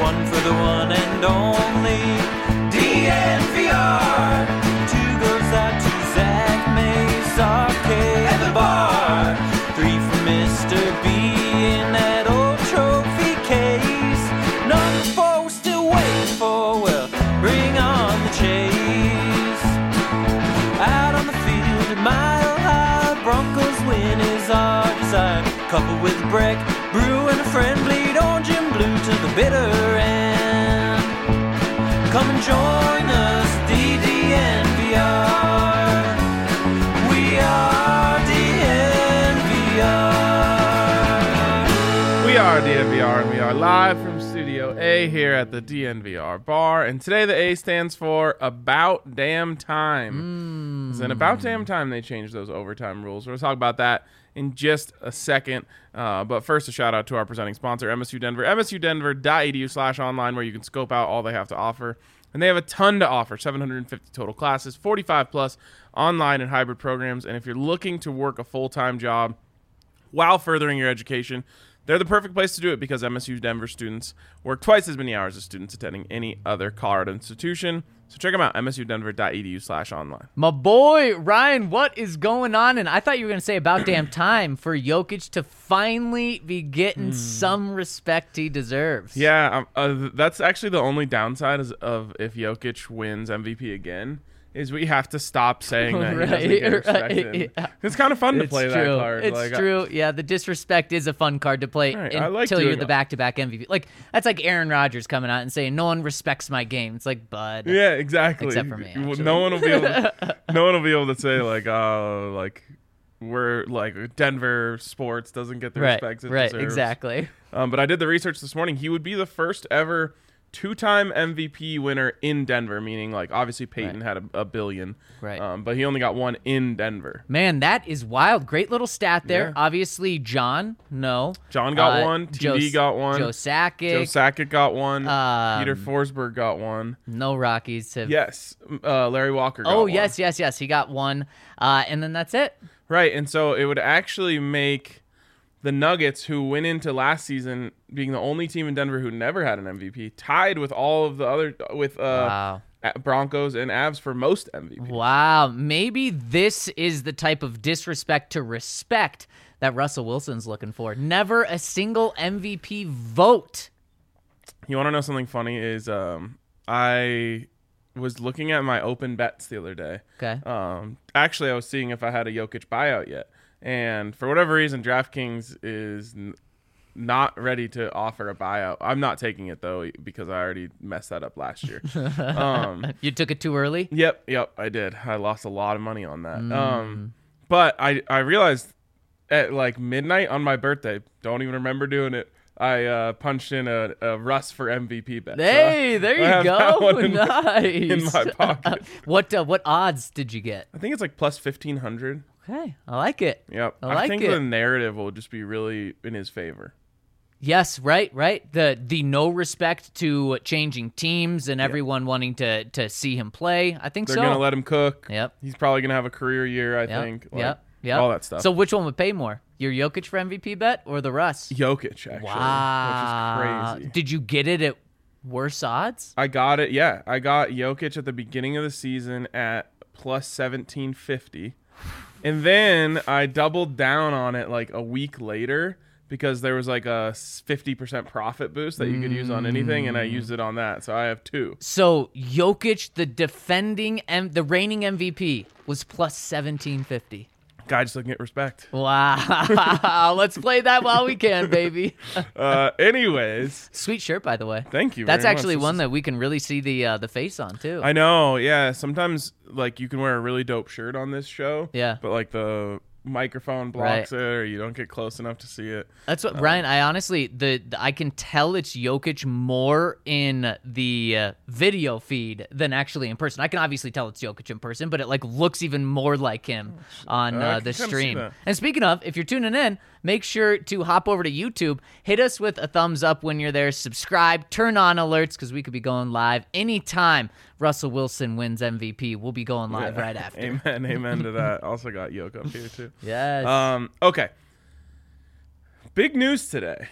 one for the one and only DNVR. Two goes out to Zach Mace, RK at the bar. Three for Mr. B in that old trophy case. Number four we're still waiting for, well, bring on the chase. Out on the field at Mile High, Broncos win is our desire. Couple with a break, brew and a friend, bleed orange and blue to the bitter end. Come and join us, DDNVR. We are DNVR. We are DNVR, and we are live from Studio A here at the DNVR bar. And today the A stands for About Damn Time. It's an About Damn Time they changed those overtime rules. We'll talk about that in just a second. But first, a shout out to our presenting sponsor, MSU Denver. msudenver.edu/online, where you can scope out all they have to offer. And they have a ton to offer, 750 total classes, 45 plus online and hybrid programs. And if you're looking to work a full-time job while furthering your education, they're the perfect place to do it because MSU Denver students work twice as many hours as students attending any other Colorado institution. So check them out, msudenver.edu/online. My boy, Ryan, what is going on? And I thought you were going to say about damn time for Jokic to finally be getting some respect he deserves. Yeah, that's actually the only downside of if Jokic wins MVP again, is we have to stop saying that he doesn't get respected. Yeah. It's kind of fun to play that card. It's true. Yeah, the disrespect is a fun card to play until you're the back-to-back MVP. Like, that's like Aaron Rodgers coming out and saying, "No one respects my game." It's like, bud. Yeah, exactly. Except for me, actually. No one will be able to say like, oh, like we're like Denver sports doesn't get the respect it deserves. Right, exactly. But I did the research this morning. He would be the first ever two-time MVP winner in Denver, meaning like obviously Peyton had a billion, right? But he only got one in Denver. Man, that is wild. Great little stat there. Yeah. Obviously, John got one. TD got one. Joe Sakic got one. Peter Forsberg got one. No Rockies have. Yes, Larry Walker got one. Oh, yes. He got one. And then that's it. Right, and so it would actually make the Nuggets, who went into last season being the only team in Denver who never had an MVP, tied with all of the other Broncos and Avs for most MVPs. Wow, maybe this is the type of disrespect to respect that Russell Wilson's looking for. Never a single MVP vote. You want to know something funny? Is I was looking at my open bets the other day. Okay. Actually, I was seeing if I had a Jokic buyout yet. And for whatever reason, DraftKings is not ready to offer a buyout. I'm not taking it, though, because I already messed that up last year. You took it too early? Yep, I did. I lost a lot of money on that. But I realized at like midnight on my birthday, don't even remember doing it, I punched in a Russ for MVP bet. Hey, so there you go. Nice. In my pocket. What odds did you get? I think it's like plus 1,500. Okay, I like it. Yep. I think the narrative will just be really in his favor. Yes, right. The no respect to changing teams and everyone wanting to see him play. I think They're going to let him cook. Yep. He's probably going to have a career year, I think. Yep. All that stuff. So which one would pay more? Your Jokic for MVP bet or the Russ? Jokic, actually. Wow. Which is crazy. Did you get it at worse odds? I got it, yeah. I got Jokic at the beginning of the season at plus 1,750. And then I doubled down on it like a week later because there was like a 50% profit boost that you could use on anything, and I used it on that. So I have two. So Jokic, the reigning MVP, was plus 1,750. Guy just looking at respect. Wow. Let's play that while we can, baby. Anyways. Sweet shirt, by the way. Thank you. That's actually one that we can really see the face on, too. I know, yeah. Sometimes, like, you can wear a really dope shirt on this show. Yeah. But, like, the microphone blocks it, or you don't get close enough to see it. That's what, Ryan, I honestly, I can tell it's Jokic more in the video feed than actually in person. I can obviously tell it's Jokic in person, but it like looks even more like him on the stream. And speaking of, if you're tuning in, make sure to hop over to YouTube, hit us with a thumbs up when you're there, subscribe, turn on alerts, because we could be going live anytime Russell Wilson wins MVP. We'll be going live right after. Amen to that. Also got Yoke up here too. Yes. Okay. Big news today,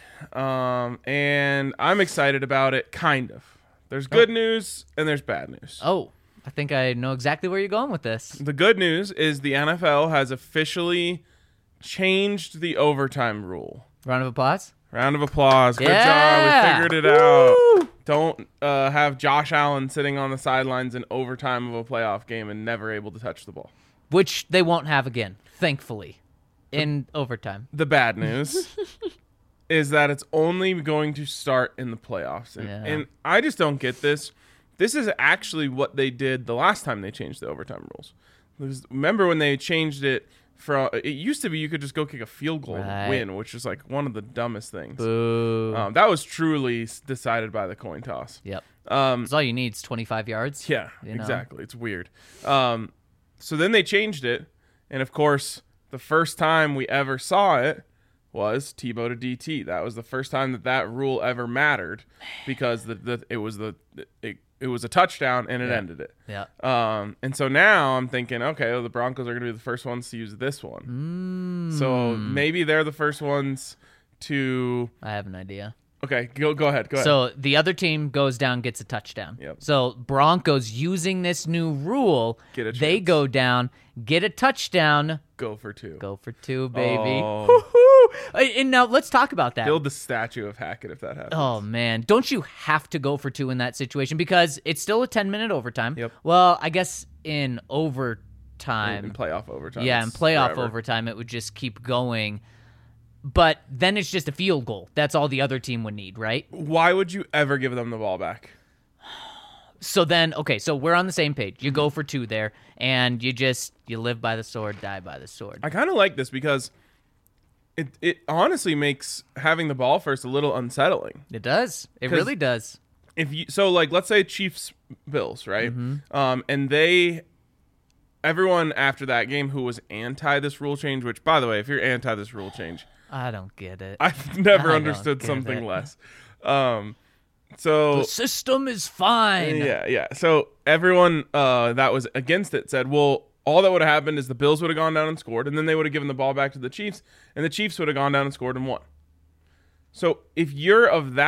and I'm excited about it. Kind of. There's good news and there's bad news. Oh, I think I know exactly where you're going with this. The good news is the NFL has officially changed the overtime rule. Round of applause. Round of applause. Good job. Yeah. We figured it out. Don't have Josh Allen sitting on the sidelines in overtime of a playoff game and never able to touch the ball. Which they won't have again, thankfully, in overtime. The bad news is that it's only going to start in the playoffs. And I just don't get this. This is actually what they did the last time they changed the overtime rules. Because remember when they changed it from, it used to be you could just go kick a field goal and win, which is like one of the dumbest things. Boo. That was truly decided by the coin toss. Yep. That's all you need is 25 yards. Yeah, you know? Exactly. It's weird. So then they changed it. And of course, the first time we ever saw it was Tebow to DT. That was the first time that rule ever mattered because it was a touchdown and it ended it. Yeah. And so now I'm thinking, okay, well, the Broncos are going to be the first ones to use this one. So maybe they're the first ones to. I have an idea. Okay, go ahead. So the other team goes down, gets a touchdown. Yep. So Broncos using this new rule, they chance. go down, get a touchdown. Go for two. Go for two, baby. Oh. And now let's talk about that. Build the statue of Hackett if that happens. Oh, man. Don't you have to go for two in that situation? Because it's still a 10-minute overtime. Yep. Well, I guess in overtime. In playoff overtime. Yeah, in it's playoff forever. overtime, it would just keep going. But then it's just a field goal. That's all the other team would need, right? Why would you ever give them the ball back? So then, okay, so we're on the same page. You go for two there, and you live by the sword, die by the sword. I kind of like this because it honestly makes having the ball first a little unsettling. It does. It really does. Let's say Chiefs Bills, right? And everyone after that game who was anti this rule change, which by the way, if you're anti this rule change, I don't get it. I've never I understood don't get something it. less. So The system is fine. yeah. So everyone that was against it said, well, all that would have happened is the Bills would have gone down and scored, and then they would have given the ball back to the Chiefs, and the Chiefs would have gone down and scored and won. So if you're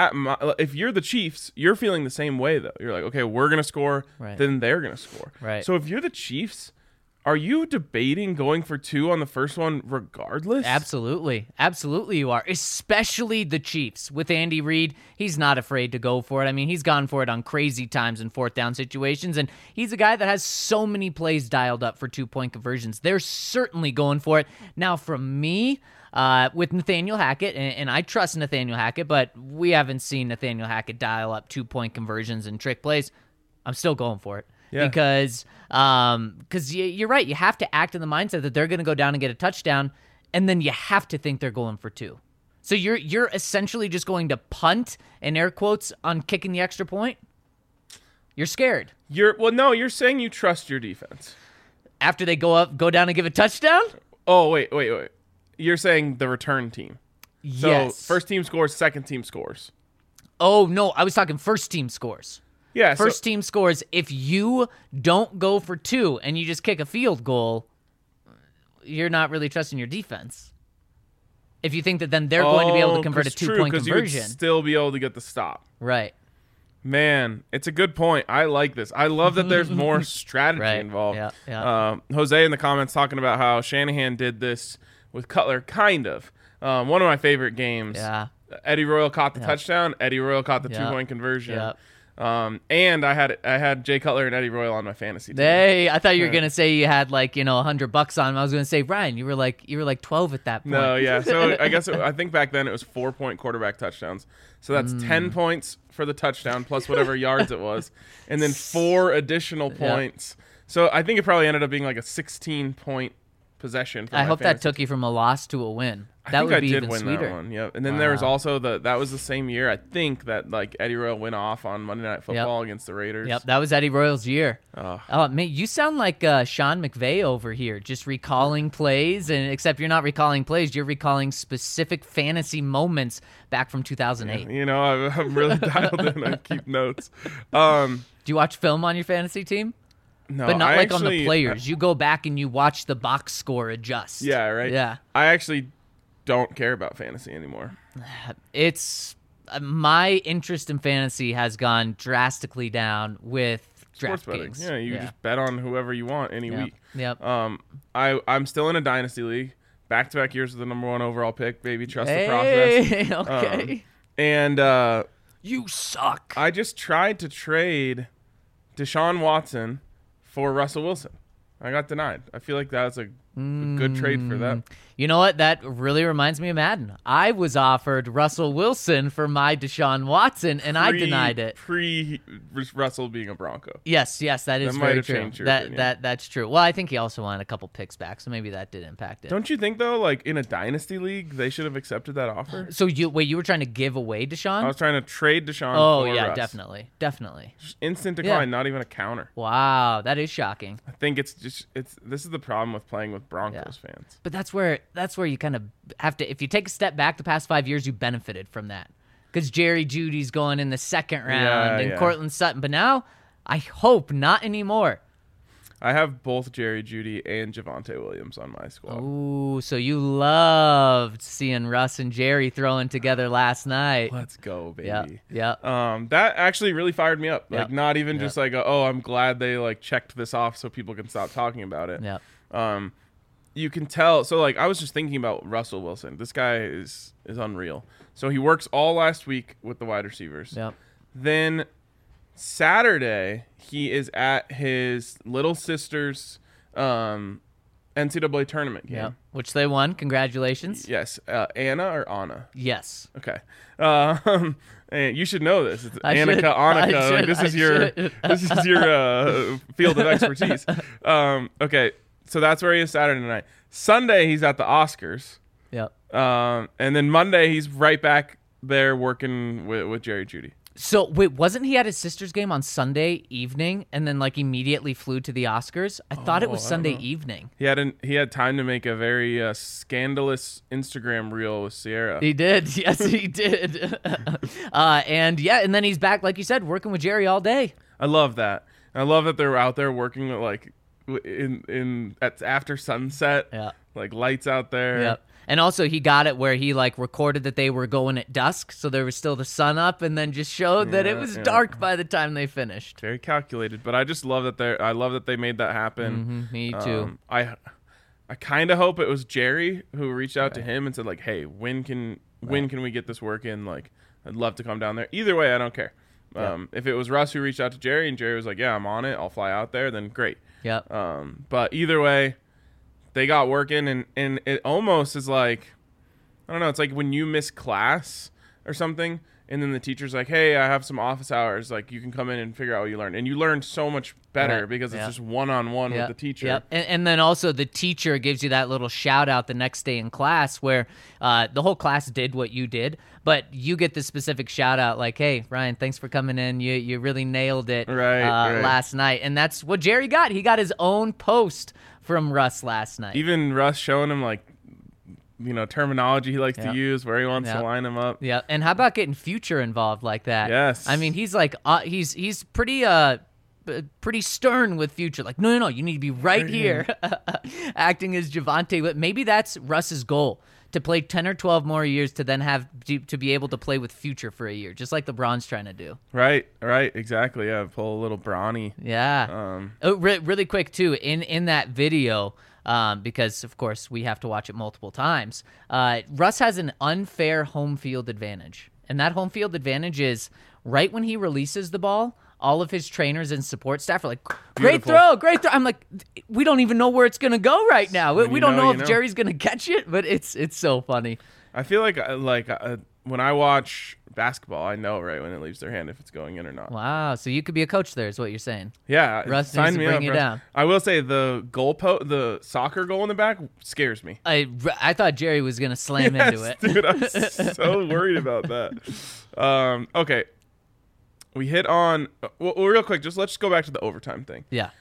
if you're the Chiefs, you're feeling the same way though. You're like, okay, we're gonna score, then they're gonna score. Right. So if you're the Chiefs, are you debating going for two on the first one regardless? Absolutely. Absolutely you are. Especially the Chiefs. With Andy Reid, he's not afraid to go for it. I mean, he's gone for it on crazy times in fourth down situations, and he's a guy that has so many plays dialed up for 2-point conversions. They're certainly going for it. Now, from me, with Nathaniel Hackett, and I trust Nathaniel Hackett, but we haven't seen Nathaniel Hackett dial up 2-point conversions and trick plays. I'm still going for it. Yeah. Because you're right. You have to act in the mindset that they're going to go down and get a touchdown, and then you have to think they're going for two. So you're essentially just going to punt, in air quotes, on kicking the extra point? You're scared. You're saying you trust your defense. After they go down and give a touchdown? Oh, wait. You're saying the return team. So Yes. first team scores, second team scores. Oh, no. I was talking first team scores. Yeah. First team scores. If you don't go for two and you just kick a field goal, you're not really trusting your defense. If you think that then they're going to be able to convert a 2-point conversion. You would still be able to get the stop. Right. Man, it's a good point. I like this. I love that there's more strategy involved. Yeah. Jose in the comments talking about how Shanahan did this with Cutler, kind of. One of my favorite games. Yeah. Eddie Royal caught the touchdown. Eddie Royal caught the 2-point conversion. Yep. And I had Jay Cutler and Eddie Royal on my fantasy team. Hey, I thought you were gonna say you had $100 on him. I was gonna say, Ryan, you were like 12 at that point. No, yeah. So I think back then it was 4-point quarterback touchdowns. So that's 10 points for the touchdown plus whatever yards it was, and then 4 additional points. So I think it probably ended up being like a 16-point possession. For I my hope that fantasy took you from a loss to a win. I That think would I be did even win sweeter. that one. Yep. And then there was also that was the same year I think that like Eddie Royal went off on Monday Night Football against the Raiders. Yep, that was Eddie Royal's year. Oh, man, you sound like Sean McVay over here, just recalling plays, and except you're not recalling plays, you're recalling specific fantasy moments back from 2008. You know, I'm really dialed in. I keep notes. Do you watch film on your fantasy team? No, but not on the players. You go back and you watch the box score adjust. Yeah, right. Yeah. I actually don't care about fantasy anymore. It's my interest in fantasy has gone drastically down with Sports betting. DraftKings. Yeah, you just bet on whoever you want any week. Yep. I'm still in a dynasty league. Back-to-back years with the number 1 overall pick, baby. Trust the process. Okay. And You suck. I just tried to trade Deshaun Watson for Russell Wilson. I got denied. I feel like that's a good trade for them. You know what? That really reminds me of Madden. I was offered Russell Wilson for my Deshaun Watson, and I denied it. Russell being a Bronco. Yes, that is That might very have true. changed your opinion. That's true. Well, I think he also wanted a couple picks back, so maybe that did impact it. Don't you think though, like in a dynasty league, they should have accepted that offer? So you were trying to give away Deshaun? I was trying to trade Deshaun. Oh for yeah, Russ. definitely. Just instant decline, not even a counter. Wow, that is shocking. I think this is the problem with playing with Broncos fans. But that's where you kind of have to. If you take a step back, the past 5 years, you benefited from that because Jerry Judy's going in the second round and Cortland Sutton. But now, I hope not anymore. I have both Jerry Jeudy and Javonte Williams on my squad. Ooh, so you loved seeing Russ and Jerry throwing together last night. Let's go, baby. Yeah. That actually really fired me up. Like, Yep. not even just like, I'm glad they like checked this off so people can stop talking about it. Yeah. You can tell. So like, I was just thinking about Russell Wilson. This guy is unreal. So he works all last week with the wide receivers. Yep. Then Saturday, he is at his little sister's NCAA tournament game. Yeah. Which they won. Congratulations. Yes. Anna or Anna? Yes. Okay. And you should know this. It's I should. Annika, I Annika. should. Like, this is your field of expertise. Okay. So that's where he is Saturday night. Sunday, he's at the Oscars. Yep. And then Monday, he's right back there working with Jerry Jeudy. So wait, wasn't he at his sister's game on Sunday evening and then like immediately flew to the Oscars? I thought it was Sunday evening. He had time to make a very scandalous Instagram reel with Sierra. He did. Yes, he did. And then he's back, like you said, working with Jerry all day. I love that. I love that they're out there working like at after sunset. Yeah. Like lights out there. Yep. And also he got it where he like recorded that they were going at dusk, so there was still the sun up, and then just showed that it was dark by the time they finished. Very calculated, but I just love that they made that happen. Me too. I kind of hope it was Jerry who reached out to him and said like, "Hey, when can we get this work in? Like, I'd love to come down there. Either way, I don't care." If it was Russ who reached out to Jerry and Jerry was like, "Yeah, I'm on it. I'll fly out there," then great. Yep. But either way, they got working, and it almost is like, I don't know, it's like when you miss class or something, and then the teacher's like, hey, I have some office hours, like you can come in and figure out what you learned. And you learn so much better because it's just one-on-one with the teacher. Yep. And then also the teacher gives you that little shout out the next day in class where the whole class did what you did, but you get the specific shout out like, hey, Ryan, thanks for coming in. You really nailed it last night. And that's what Jerry got. He got his own post from Russ last night. Even Russ showing him like, terminology he likes to use, where he wants to line them up. Yeah. And how about getting Future involved like that? Yes. I mean, he's like, he's pretty stern with Future. Like, no, you need to be right here, acting as Javonte. But maybe that's Russ's goal, to play 10 or 12 more years to then have to be able to play with Future for a year, just like LeBron's trying to do. Right, exactly. Yeah, pull a little brawny. Yeah. Really quick too, in that video, because of course we have to watch it multiple times. Russ has an unfair home field advantage, and that home field advantage is right when he releases the ball, all of his trainers and support staff are like, great throw. I'm like, we don't even know where it's going to go right now. We don't know if Jerry's going to catch it, but it's so funny. I feel like when I watch basketball, I know right when it leaves their hand if it's going in or not. Wow, so you could be a coach there is what you're saying. Yeah. Russ sign needs to me bring up, you Russ. down. I will say the soccer goal in the back scares me. I thought Jerry was going to slam into it. Dude, I'm so worried about that. Okay. We hit on well, real quick. Let's just go back to the overtime thing. Yeah.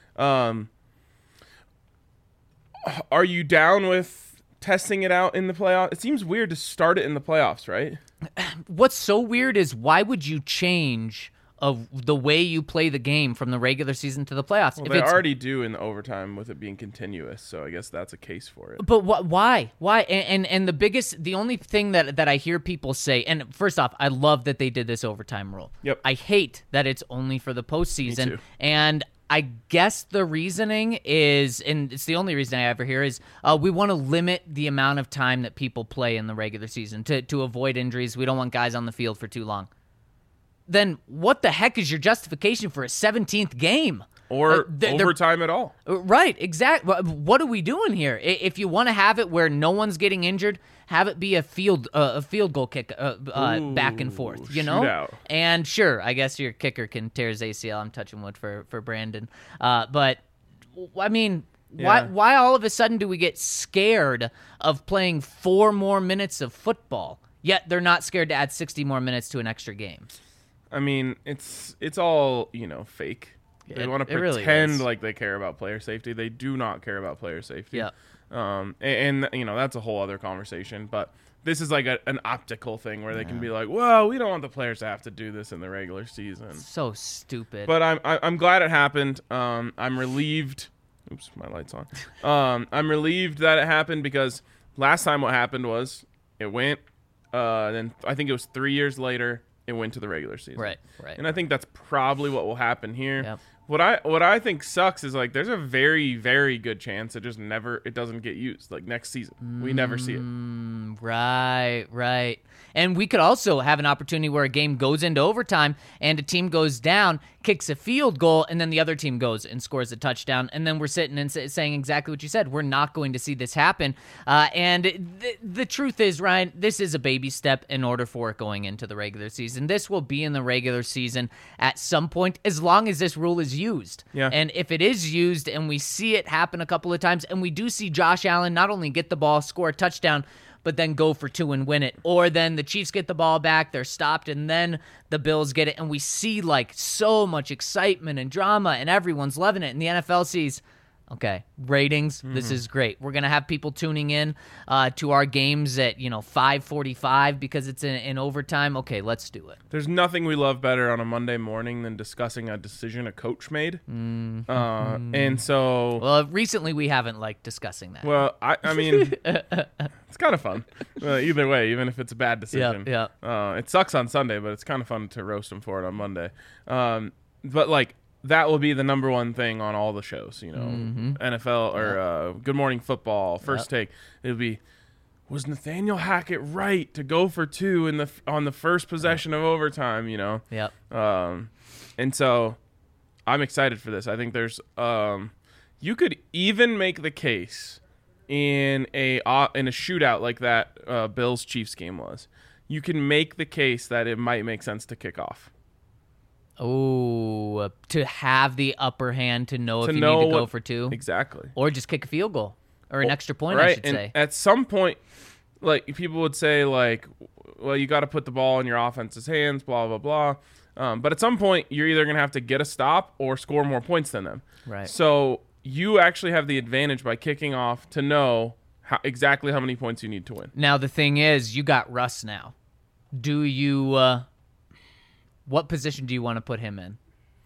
Are you down with testing it out in the playoffs? It seems weird to start it in the playoffs, right? What's so weird is why would you change of the way you play the game from the regular season to the playoffs. Well, If they it's already do in the overtime with it being continuous, so I guess that's a case for it. But why? Why? And the only thing that I hear people say, and first off, I love that they did this overtime rule. Yep. I hate that it's only for the postseason. Me too. And I guess the reasoning is, and it's the only reason I ever hear is, we want to limit the amount of time that people play in the regular season to avoid injuries. We don't want guys on the field for too long. Then what the heck is your justification for a 17th game? Or They're- overtime at all. Right, exactly. What are we doing here? If you want to have it where no one's getting injured, have it be a field goal kick back and forth, you know? Shootout. And sure, I guess your kicker can tear his ACL. I'm touching wood for Brandon. But, I mean, Yeah. why all of a sudden do we get scared of playing 4 more minutes of football, yet they're not scared to add 60 more minutes to an extra game? I mean, it's all, fake. They want to it really pretend is. like they care about player safety. They do not care about player safety. Yeah. And that's a whole other conversation. But this is like an optical thing where they can be like, well, we don't want the players to have to do this in the regular season. So stupid. But I'm glad it happened. I'm relieved. Oops, my light's on. I'm relieved that it happened because last time what happened was it went. Then I think it was 3 years later it went to the regular season. Right. And I think that's probably what will happen here. Yep. What I think sucks is like there's a very, very good chance it doesn't get used like next season. We never see it. Right. And we could also have an opportunity where a game goes into overtime and a team goes down, kicks a field goal, and then the other team goes and scores a touchdown. And then we're sitting and saying exactly what you said. We're not going to see this happen. And the truth is, Ryan, this is a baby step in order for it going into the regular season. This will be in the regular season at some point as long as this rule is used. Yeah. And if it is used and we see it happen a couple of times and we do see Josh Allen not only get the ball, score a touchdown, but then go for 2 and win it. Or then the Chiefs get the ball back, they're stopped, and then the Bills get it. And we see like so much excitement and drama, and everyone's loving it. And the NFL sees, okay, ratings, this is great. We're going to have people tuning in to our games at, 5:45 because it's in overtime. Okay, let's do it. There's nothing we love better on a Monday morning than discussing a decision a coach made. And so, Well, recently we haven't liked discussing that. well, I mean, it's kind of fun. Either way, even if it's a bad decision. Yeah. It sucks on Sunday, but it's kind of fun to roast them for it on Monday. But like, that will be the number one thing on all the shows, NFL or Good Morning Football, First Take. It'll be, was Nathaniel Hackett right to go for 2 on the first possession of overtime? Yep. And so I'm excited for this. I think there's you could even make the case in a shootout like that Bills Chiefs game was. You can make the case that it might make sense to kick off. Oh, to have the upper hand to know if you need to go for 2. Exactly. Or just kick a field goal. Or an extra point, right. I should And say. at some point, like, people would say, like, well, you got to put the ball in your offense's hands, blah, blah, blah. But at some point, you're either going to have to get a stop or score more points than them. Right. So you actually have the advantage by kicking off to know exactly how many points you need to win. Now, the thing is, you got Russ now. Do you... what position do you want to put him in?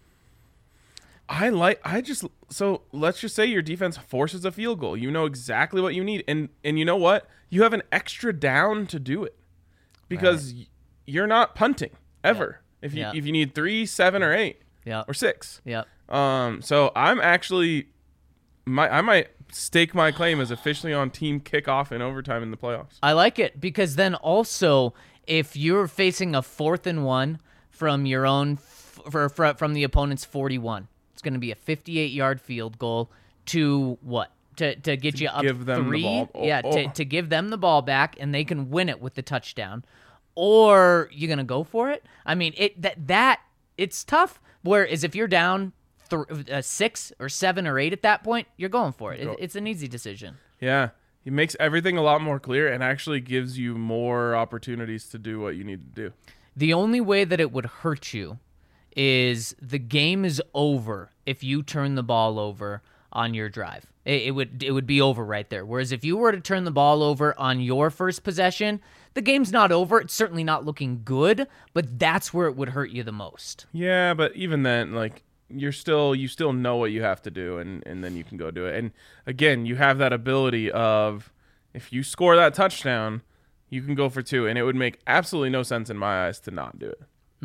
So let's just say your defense forces a field goal. You know exactly what you need. And you know what? You have an extra down to do it because you're not punting ever. If you need 3, 7, or 8 or 6. Yep. So I'm actually, I might stake my claim as officially on team kickoff in overtime in the playoffs. I like it because then also if you're facing a 4th and 1 from your own from the opponent's 41, it's going to be a 58-yard field goal to what? To get you up give them 3. the ball. To give them the ball back and they can win it with the touchdown. Or you're going to go for it? I mean, it's tough. Whereas if you're down 6 or 7 or 8 at that point, you're going for it. It's an easy decision. Yeah. It makes everything a lot more clear and actually gives you more opportunities to do what you need to do. The only way that it would hurt you is the game is over if you turn the ball over on your drive. It would be over right there. Whereas if you were to turn the ball over on your first possession, the game's not over. It's certainly not looking good, but that's where it would hurt you the most. Yeah, but even then, like, you still know what you have to do, and then you can go do it. And again, you have that ability of, if you score that touchdown, you can go for 2, and it would make absolutely no sense in my eyes to not do it.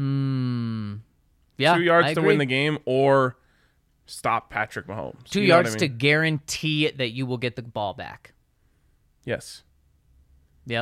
Yeah, 2 yards I to agree. win the game, or stop Patrick Mahomes. 2 You know what yards I to mean? guarantee that you will get the ball back. Yes. Yep.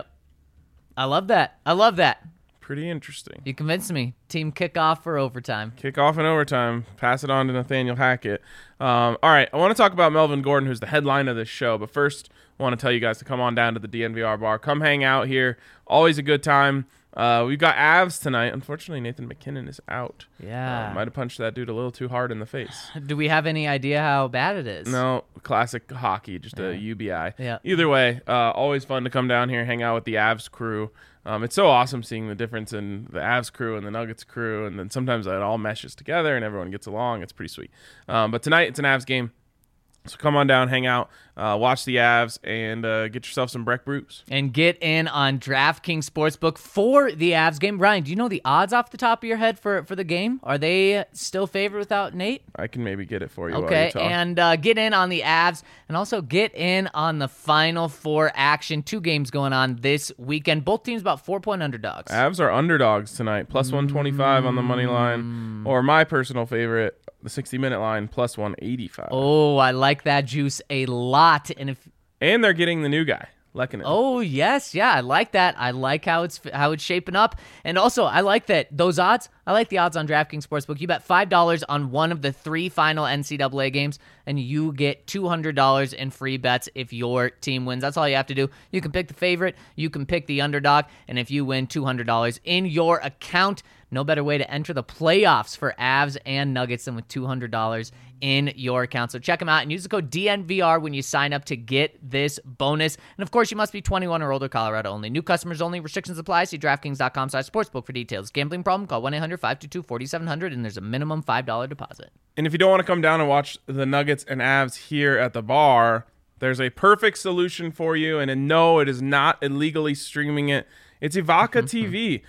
I love that. Pretty interesting. You convinced me. Team kickoff for overtime. Kickoff in overtime. Pass it on to Nathaniel Hackett. All right, I want to talk about Melvin Gordon, who's the headline of this show. But first, I want to tell you guys to come on down to the DNVR bar. Come hang out here. Always a good time. We've got Avs tonight. Unfortunately, Nathan McKinnon is out. Yeah. Might have punched that dude a little too hard in the face. Do we have any idea how bad it is? No, classic hockey, just a UBI. Yeah. Either way, always fun to come down here, hang out with the Avs crew. It's so awesome seeing the difference in the Avs crew and the Nuggets crew, and then sometimes it all meshes together and everyone gets along. It's pretty sweet. But tonight it's an Avs game. So come on down, hang out, watch the Avs, and get yourself some Breck Brews. And get in on DraftKings Sportsbook for the Avs game. Ryan, do you know the odds off the top of your head for the game? Are they still favored without Nate? I can maybe get it for you while Okay, you talk. and get in on the Avs, and also get in on the Final Four action. 2 games going on this weekend. Both teams about 4-point underdogs. Avs are underdogs tonight, plus 125 on the money line, or my personal favorite, the 60-minute line, plus 185. Oh, I like that juice a lot. And they're getting the new guy, Lehkonen. Oh, yes. Yeah, I like that. I like how it's shaping up. And also, I like that those odds. I like the odds on DraftKings Sportsbook. You bet $5 on one of the 3 final NCAA games, and you get $200 in free bets if your team wins. That's all you have to do. You can pick the favorite. You can pick the underdog. And if you win, $200 in your account. No better way to enter the playoffs for Avs and Nuggets than with $200 in your account. So check them out and use the code DNVR when you sign up to get this bonus. And of course, you must be 21 or older, Colorado only. New customers only. Restrictions apply. See DraftKings.com/sportsbook for details. Gambling problem? Call 1-800-522-4700, and there's a minimum $5 deposit. And if you don't want to come down and watch the Nuggets and Avs here at the bar, there's a perfect solution for you. And no, it is not illegally streaming it. It's Evoca TV,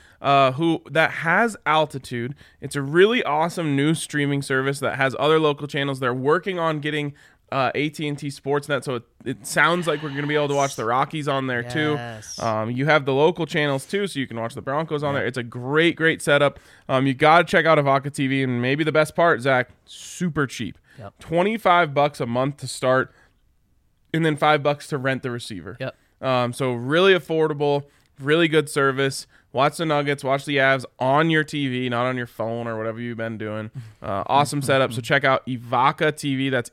that has Altitude. It's a really awesome new streaming service that has other local channels. They're working on getting AT&T Sportsnet, so it sounds like we're going to be able to watch the Rockies on there Yes. too. You have the local channels too, so you can watch the Broncos on there. It's a great setup. You got to check out Evoca TV, and maybe the best part, Zach, super cheap. Yep. $25 a month to start, and then $5 to rent the receiver. Yep. So really affordable. Really good service. Watch the Nuggets, watch the Avs on your TV, not on your phone or whatever you've been doing. Awesome setup. So check out Evoca TV. That's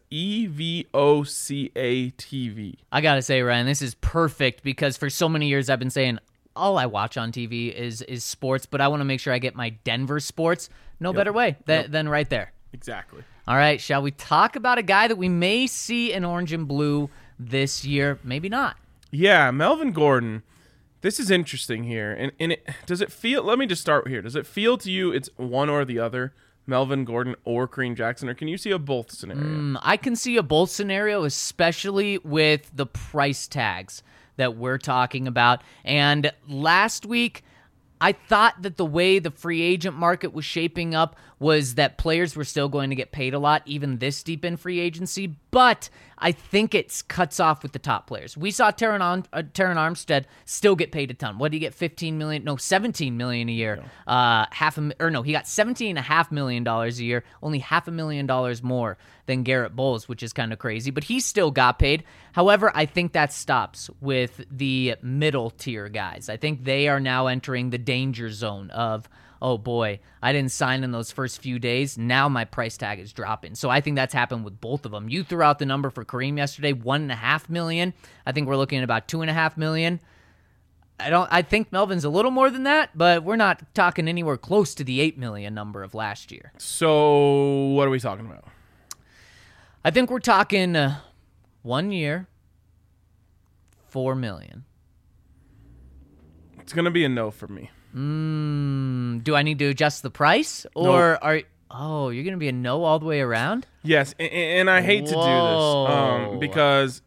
EVOCA TV. I got to say, Ryan, this is perfect because for so many years I've been saying all I watch on TV is sports, but I want to make sure I get my Denver sports. No better way than right there. Exactly. All right, shall we talk about a guy that we may see in orange and blue this year? Maybe not. Yeah, Melvin Gordon. This is interesting here. And does it feel, let me just start here. Does it feel to you it's one or the other, Melvin Gordon or Kareem Jackson, or can you see a both scenario? I can see a both scenario, especially with the price tags that we're talking about. And last week, I thought that the way the free agent market was shaping up was that players were still going to get paid a lot, even this deep in free agency. But I think it cuts off with the top players. We saw Terran Armstead still get paid a ton. What did he get? $17 million a year. He got $17.5 million a year. Only $500,000 more than Garrett Bowles, which is kind of crazy. But he still got paid. However, I think that stops with the middle tier guys. I think they are now entering the danger zone of, oh boy, I didn't sign in those first few days. Now my price tag is dropping. So I think that's happened with both of them. You threw out the number for Kareem yesterday, $1.5 million. I think we're looking at about $2.5 million. I think Melvin's a little more than that, but we're not talking anywhere close to the $8 million number of last year. So what are we talking about? I think we're talking 1 year, $4 million. It's going to be a no for me. Do I need to adjust the price, or Nope. Oh, you're gonna be a no all the way around? Yes, and I hate to do Whoa. this because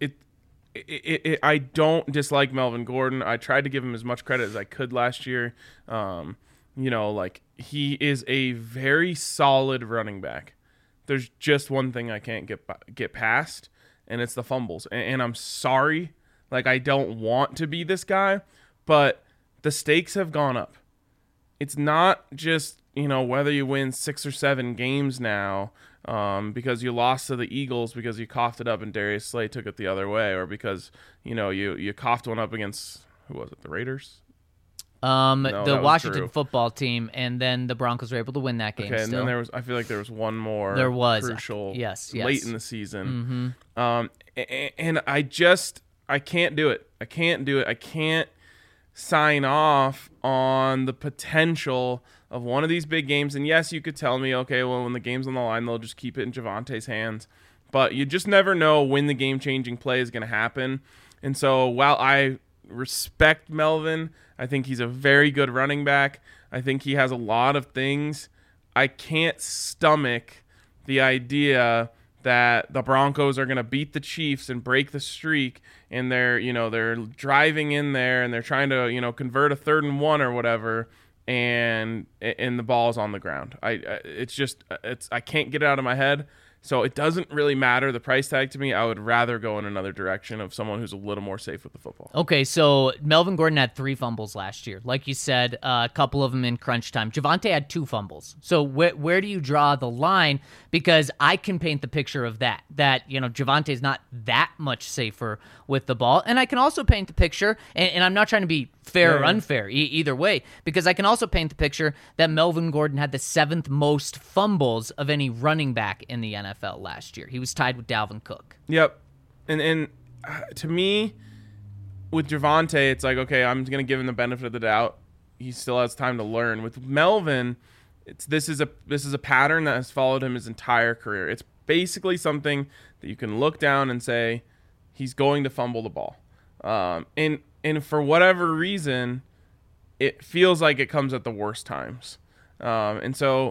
I don't dislike Melvin Gordon. I tried to give him as much credit as I could last year. Like he is a very solid running back. There's just one thing I can't get past, and it's the fumbles. And I'm sorry, like I don't want to be this guy, but the stakes have gone up. It's not just whether you win 6 or 7 games now because you lost to the Eagles because you coughed it up and Darius Slay took it the other way, or because you coughed one up against, who was it, the Raiders? The Washington football team, and then the Broncos were able to win that game. Okay, still. And then I feel like there was one more. There was crucial, yes, late in the season. And I can't do it. I can't sign off on the potential of one of these big games. And yes, you could tell me, okay, well, when the game's on the line, they'll just keep it in Javante's hands. But you just never know when the game-changing play is going to happen. And so while I respect Melvin, I think he's a very good running back. I think he has a lot of things. I can't stomach the idea that the Broncos are going to beat the Chiefs and break the streak, and they're driving in there and they're trying to convert a 3rd and 1 or whatever, and the ball's on the ground. I can't get it out of my head. So it doesn't really matter the price tag to me. I would rather go in another direction of someone who's a little more safe with the football. Okay, so Melvin Gordon had 3 fumbles last year. Like you said, a couple of them in crunch time. Javonte had 2 fumbles. So where do you draw the line? Because I can paint the picture of that Javonte is not that much safer with the ball. And I can also paint the picture, and I'm not trying to be fair or unfair either way, because I can also paint the picture that Melvin Gordon had the 7th most fumbles of any running back in the NFL last year. He was tied with Dalvin Cook. Yep. And to me, with Javonte, it's like, okay, I'm going to give him the benefit of the doubt. He still has time to learn. With Melvin, this is a pattern that has followed him his entire career. It's basically something that you can look down and say he's going to fumble the ball. And for whatever reason, it feels like it comes at the worst times. And so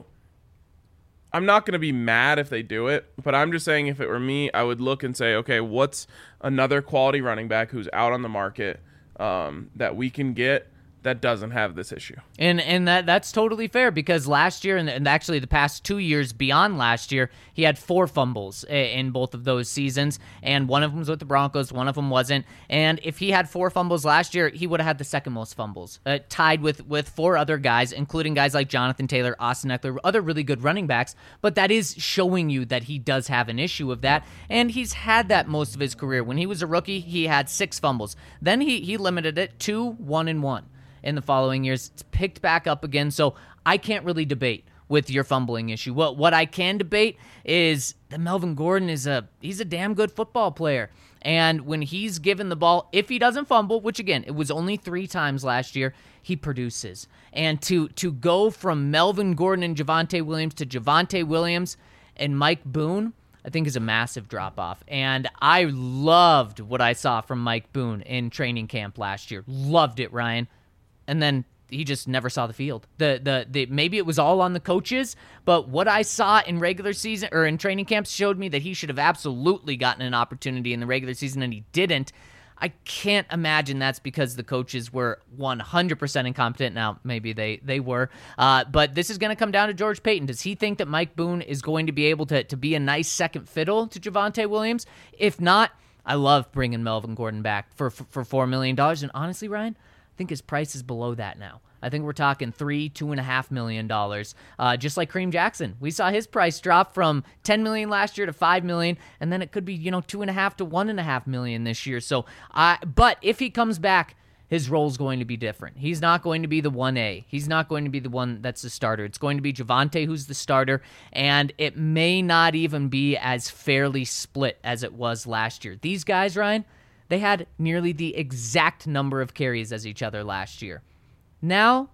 I'm not going to be mad if they do it, but I'm just saying if it were me, I would look and say, okay, what's another quality running back who's out on the market that we can get that doesn't have this issue. And that's totally fair, because last year and actually the past 2 years beyond last year, he had 4 fumbles in both of those seasons, and one of them was with the Broncos, one of them wasn't. And if he had 4 fumbles last year, he would have had the 2nd most fumbles, tied with 4 other guys, including guys like Jonathan Taylor, Austin Eckler, other really good running backs. But that is showing you that he does have an issue of that, and he's had that most of his career. When he was a rookie, he had 6 fumbles. Then he limited it to 1 and 1. In the following years, it's picked back up again. So I can't really debate with your fumbling issue. What I can debate is that Melvin Gordon he's a damn good football player. And when he's given the ball, if he doesn't fumble, which again, it was only 3 times last year, he produces. And to go from Melvin Gordon and Javonte Williams to Javonte Williams and Mike Boone, I think is a massive drop-off. And I loved what I saw from Mike Boone in training camp last year. Loved it, Ryan. And then he just never saw the field. Maybe it was all on the coaches, but what I saw in regular season or in training camps showed me that he should have absolutely gotten an opportunity in the regular season, and he didn't. I can't imagine that's because the coaches were 100% incompetent. Now, maybe they were. But this is going to come down to George Paton. Does he think that Mike Boone is going to be able to be a nice second fiddle to Javonte Williams? If not, I love bringing Melvin Gordon back for $4 million. And honestly, Ryan, I think his price is below that now. I think we're talking $2.5 million. Just like Kareem Jackson, we saw his price drop from $10 million last year to $5 million, and then it could be $2.5 to $1.5 million this year. So, but if he comes back, his role is going to be different. He's not going to be the 1A. He's not going to be the one that's the starter. It's going to be Javonte who's the starter, and it may not even be as fairly split as it was last year. These guys, Ryan, they had nearly the exact number of carries as each other last year. Now,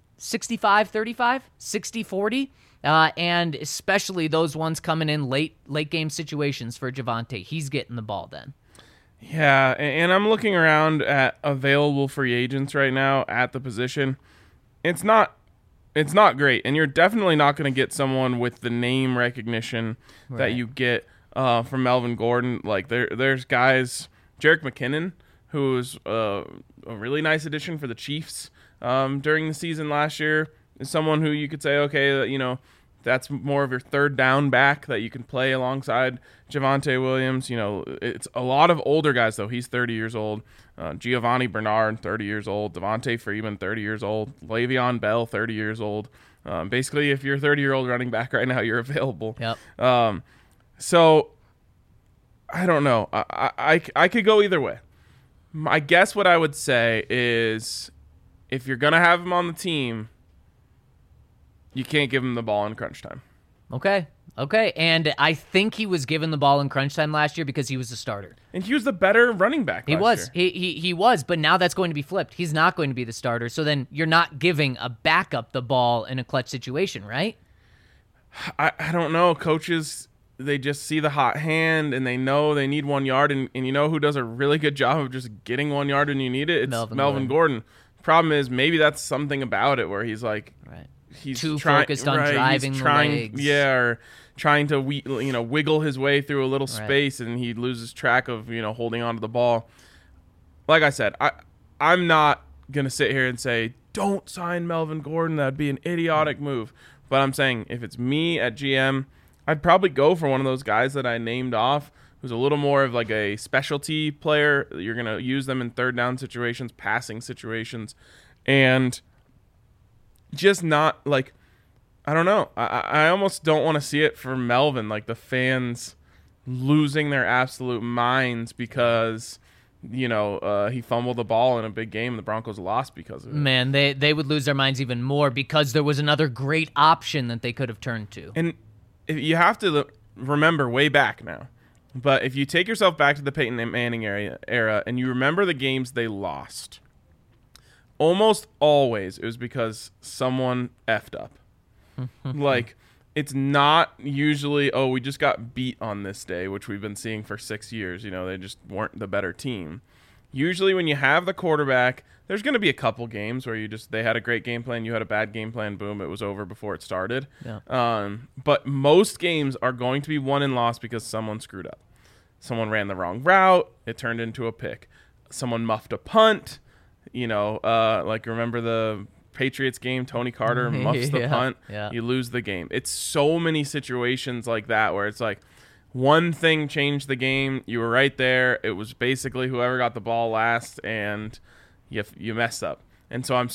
65-35, 60-40, and especially those ones coming in late game situations for Javonte. He's getting the ball then. Yeah, and I'm looking around at available free agents right now at the position. It's not it's not great, and you're definitely not going to get someone with the name recognition that Right. you get from Melvin Gordon. Like there's guys, Jerick McKinnon, who was a really nice addition for the Chiefs during the season last year, is someone who you could say, okay, that's more of your third down back that you can play alongside Javonte Williams. It's a lot of older guys, though. He's 30 years old. Giovanni Bernard, 30 years old. Devontae Freeman, 30 years old. Le'Veon Bell, 30 years old. Basically, if you're a 30-year-old running back right now, you're available. Yep. So, I don't know. I could go either way. I guess what I would say is if you're going to have him on the team, you can't give him the ball in crunch time. Okay. And I think he was given the ball in crunch time last year because he was the starter. And he was the better running back He last was. year. He was, but now that's going to be flipped. He's not going to be the starter. So then you're not giving a backup the ball in a clutch situation, right? I don't know. Coaches, they just see the hot hand and they know they need 1 yard. And you know who does a really good job of just getting 1 yard when you need it? It's Melvin Gordon. Problem is, maybe that's something about it where he's like, Right. he's Too focused on driving the legs. Yeah, or trying to wiggle his way through a little space, and he loses track of holding on to the ball. Like I said, I'm not gonna sit here and say don't sign Melvin Gordon. That'd be an idiotic move. But I'm saying if it's me at GM, I'd probably go for one of those guys that I named off, who's a little more of like a specialty player. You're gonna use them in third down situations, passing situations, and just not like, I don't know. I almost don't want to see it for Melvin, like the fans losing their absolute minds because he fumbled the ball in a big game and the Broncos lost because of it. Man, they would lose their minds even more because there was another great option that they could have turned to. And you have to remember way back now. But if you take yourself back to the Peyton Manning era and you remember the games they lost, almost always it was because someone effed up. Like, it's not usually, we just got beat on this day, which we've been seeing for 6 years. They just weren't the better team. Usually when you have the quarterback, there's going to be a couple games where they had a great game plan, you had a bad game plan, boom, it was over before it started. Yeah. But most games are going to be won and lost because someone screwed up. Someone ran the wrong route, it turned into a pick. Someone muffed a punt. Like remember the Patriots game, Tony Carter muffs the punt, you lose the game. It's so many situations like that where it's like one thing changed the game, you were right there, it was basically whoever got the ball last, and you messed up. And so I'm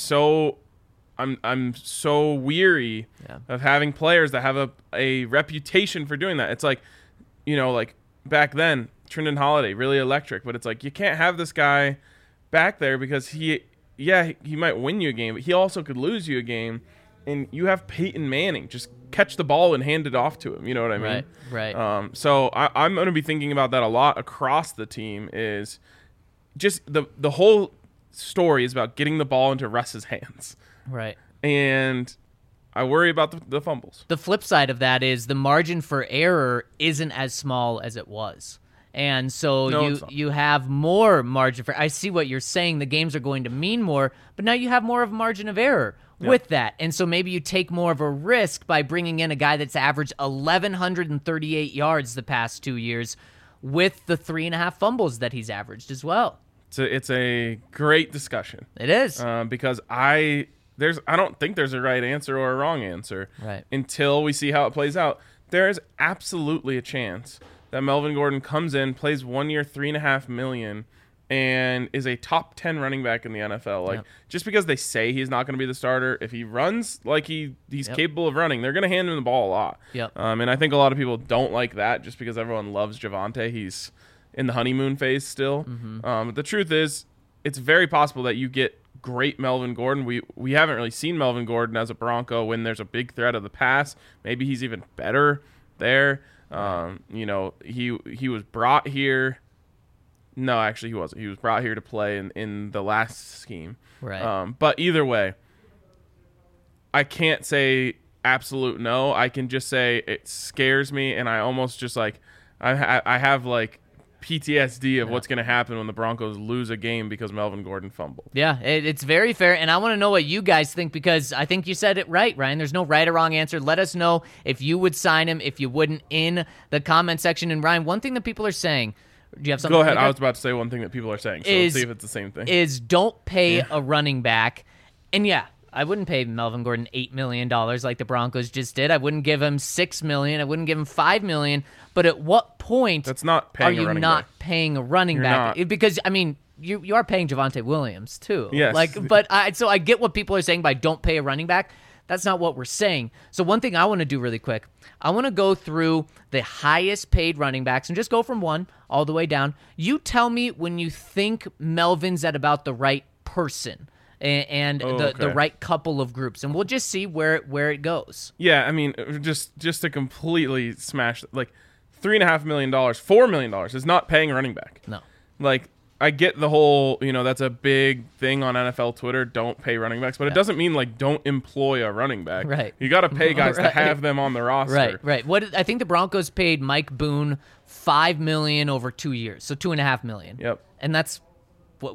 so weary of having players that have a reputation for doing that. It's like, like back then, Trindon Holiday, really electric, but it's like you can't have this guy back there because he might win you a game, but he also could lose you a game. And you have Peyton Manning, just catch the ball and hand it off to him. You know what I mean? Right. So I'm going to be thinking about that a lot across the team. Is just the whole story is about getting the ball into Russ's hands. Right. And I worry about the fumbles. The flip side of that is the margin for error isn't as small as it was. And so you have more margin for. I see what you're saying. The games are going to mean more, but now you have more of a margin of error with that. And so maybe you take more of a risk by bringing in a guy that's averaged 1,138 yards the past 2 years with the 3.5 fumbles that he's averaged as well. It's a great discussion. It is. Because I don't think there's a right answer or a wrong answer until we see how it plays out. There is absolutely a chance that Melvin Gordon comes in, plays 1 year, $3.5 million, and is a top 10 running back in the NFL. Just because they say he's not going to be the starter, if he runs like he's capable of running, they're going to hand him the ball a lot. And I think a lot of people don't like that just because everyone loves Javonte. He's in the honeymoon phase still. But the truth is, it's very possible that you get great Melvin Gordon. We haven't really seen Melvin Gordon as a Bronco when there's a big threat of the pass. Maybe he's even better there. He was brought here. No, actually he wasn't. He was brought here to play in the last scheme. Right. But either way, I can't say absolute no. I can just say it scares me, and I almost just like I have like PTSD of what's going to happen when the Broncos lose a game because Melvin Gordon fumbled. Yeah, it's very fair, and I want to know what you guys think because I think you said it right, Ryan. There's no right or wrong answer. Let us know if you would sign him, if you wouldn't, in the comment section. And Ryan, one thing that people are saying, do you have something? Go ahead. I was about to say one thing that people are saying, so let's see if it's the same thing. Is don't pay a running back. And yeah, I wouldn't pay Melvin Gordon $8 million like the Broncos just did. I wouldn't give him $6 million. I wouldn't give him $5 million. But at what point That's not paying are a you running not back. paying a running You're back? not. Because, I mean, you are paying Javonte Williams too. Yes. So I get what people are saying by don't pay a running back. That's not what we're saying. So one thing I want to do really quick, I want to go through the highest paid running backs and just go from 1 all the way down. You tell me when you think Melvin's at about the right person and the right couple of groups, and we'll just see where it goes. Yeah, I mean, just to completely smash, like, $3.5 million, $4 million is not paying a running back. No. Like, I get the whole, that's a big thing on NFL Twitter, don't pay running backs, but it doesn't mean, like, don't employ a running back. Right. You got to pay guys to have them on the roster. Right. I think the Broncos paid Mike Boone $5 million over 2 years, so $2.5 million. Yep. And that's what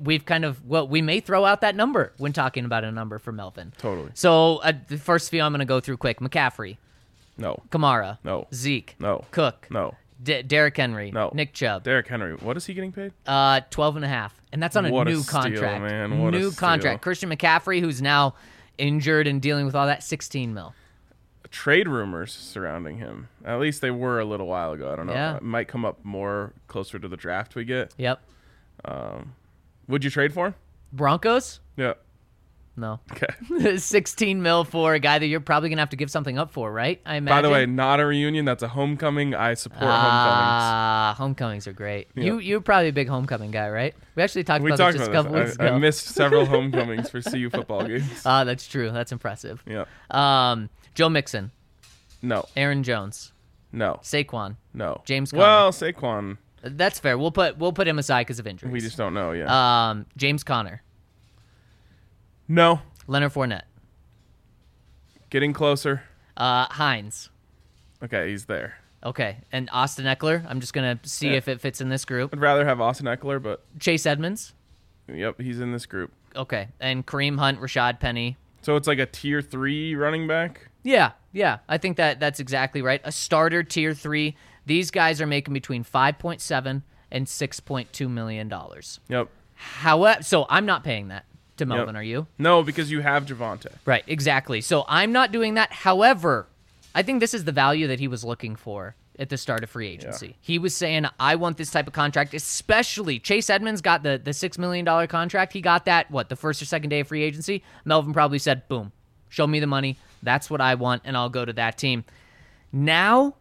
we may throw out that number when talking about a number for Melvin. Totally. So the first few I'm going to go through quick. McCaffrey, No. Kamara, No. Zeke, No. Cook, No. Derrick Henry, No. Nick Chubb. Derrick Henry, what is he getting paid? 12.5, and that's on a What a new steal, contract. man. What a New steal. contract. Christian McCaffrey, who's now injured and dealing with all that, $16 million. Trade rumors surrounding him. At least they were a little while ago. I don't know. Yeah. It might come up more closer to the draft we get. Yep. Would you trade for him? Broncos? Yeah. No. Okay. 16 mil for a guy that you're probably gonna have to give something up for, right? I imagine. By the way, not a reunion. That's a homecoming. I support homecomings. Homecomings are great. Yeah. You're probably a big homecoming guy, right? We actually talked We about talked this just a about couple weeks this. ago. I missed several homecomings for CU football games. That's true. That's impressive. Yeah. Joe Mixon, No. Aaron Jones, No. Saquon, No. James Conner. Well, Saquon, That's fair. We'll put him aside because of injuries. we just don't know. Yeah. James Conner, No. Leonard Fournette, Getting closer. Hines. Okay, he's there. Okay, and Austin Eckler. I'm just gonna see Yeah. if it fits in this group. I'd rather have Austin Eckler, but Chase Edmonds. yep, he's in this group. Okay, and Kareem Hunt, Rashad Penny. So it's like a tier 3 running back. Yeah. I think that's exactly right. A starter tier 3. These guys are making between $5.7 and $6.2 million. Yep. However, so I'm not paying that to Melvin. Yep. Are you? No, because you have Javonte. Right. Exactly. So I'm not doing that. However, I think this is the value that he was looking for at the start of free agency. Yeah. He was saying, I want this type of contract, especially Chase Edmonds got the $6 million contract. He got that, the first or second day of free agency? Melvin probably said, boom, show me the money. That's what I want, and I'll go to that team. Now,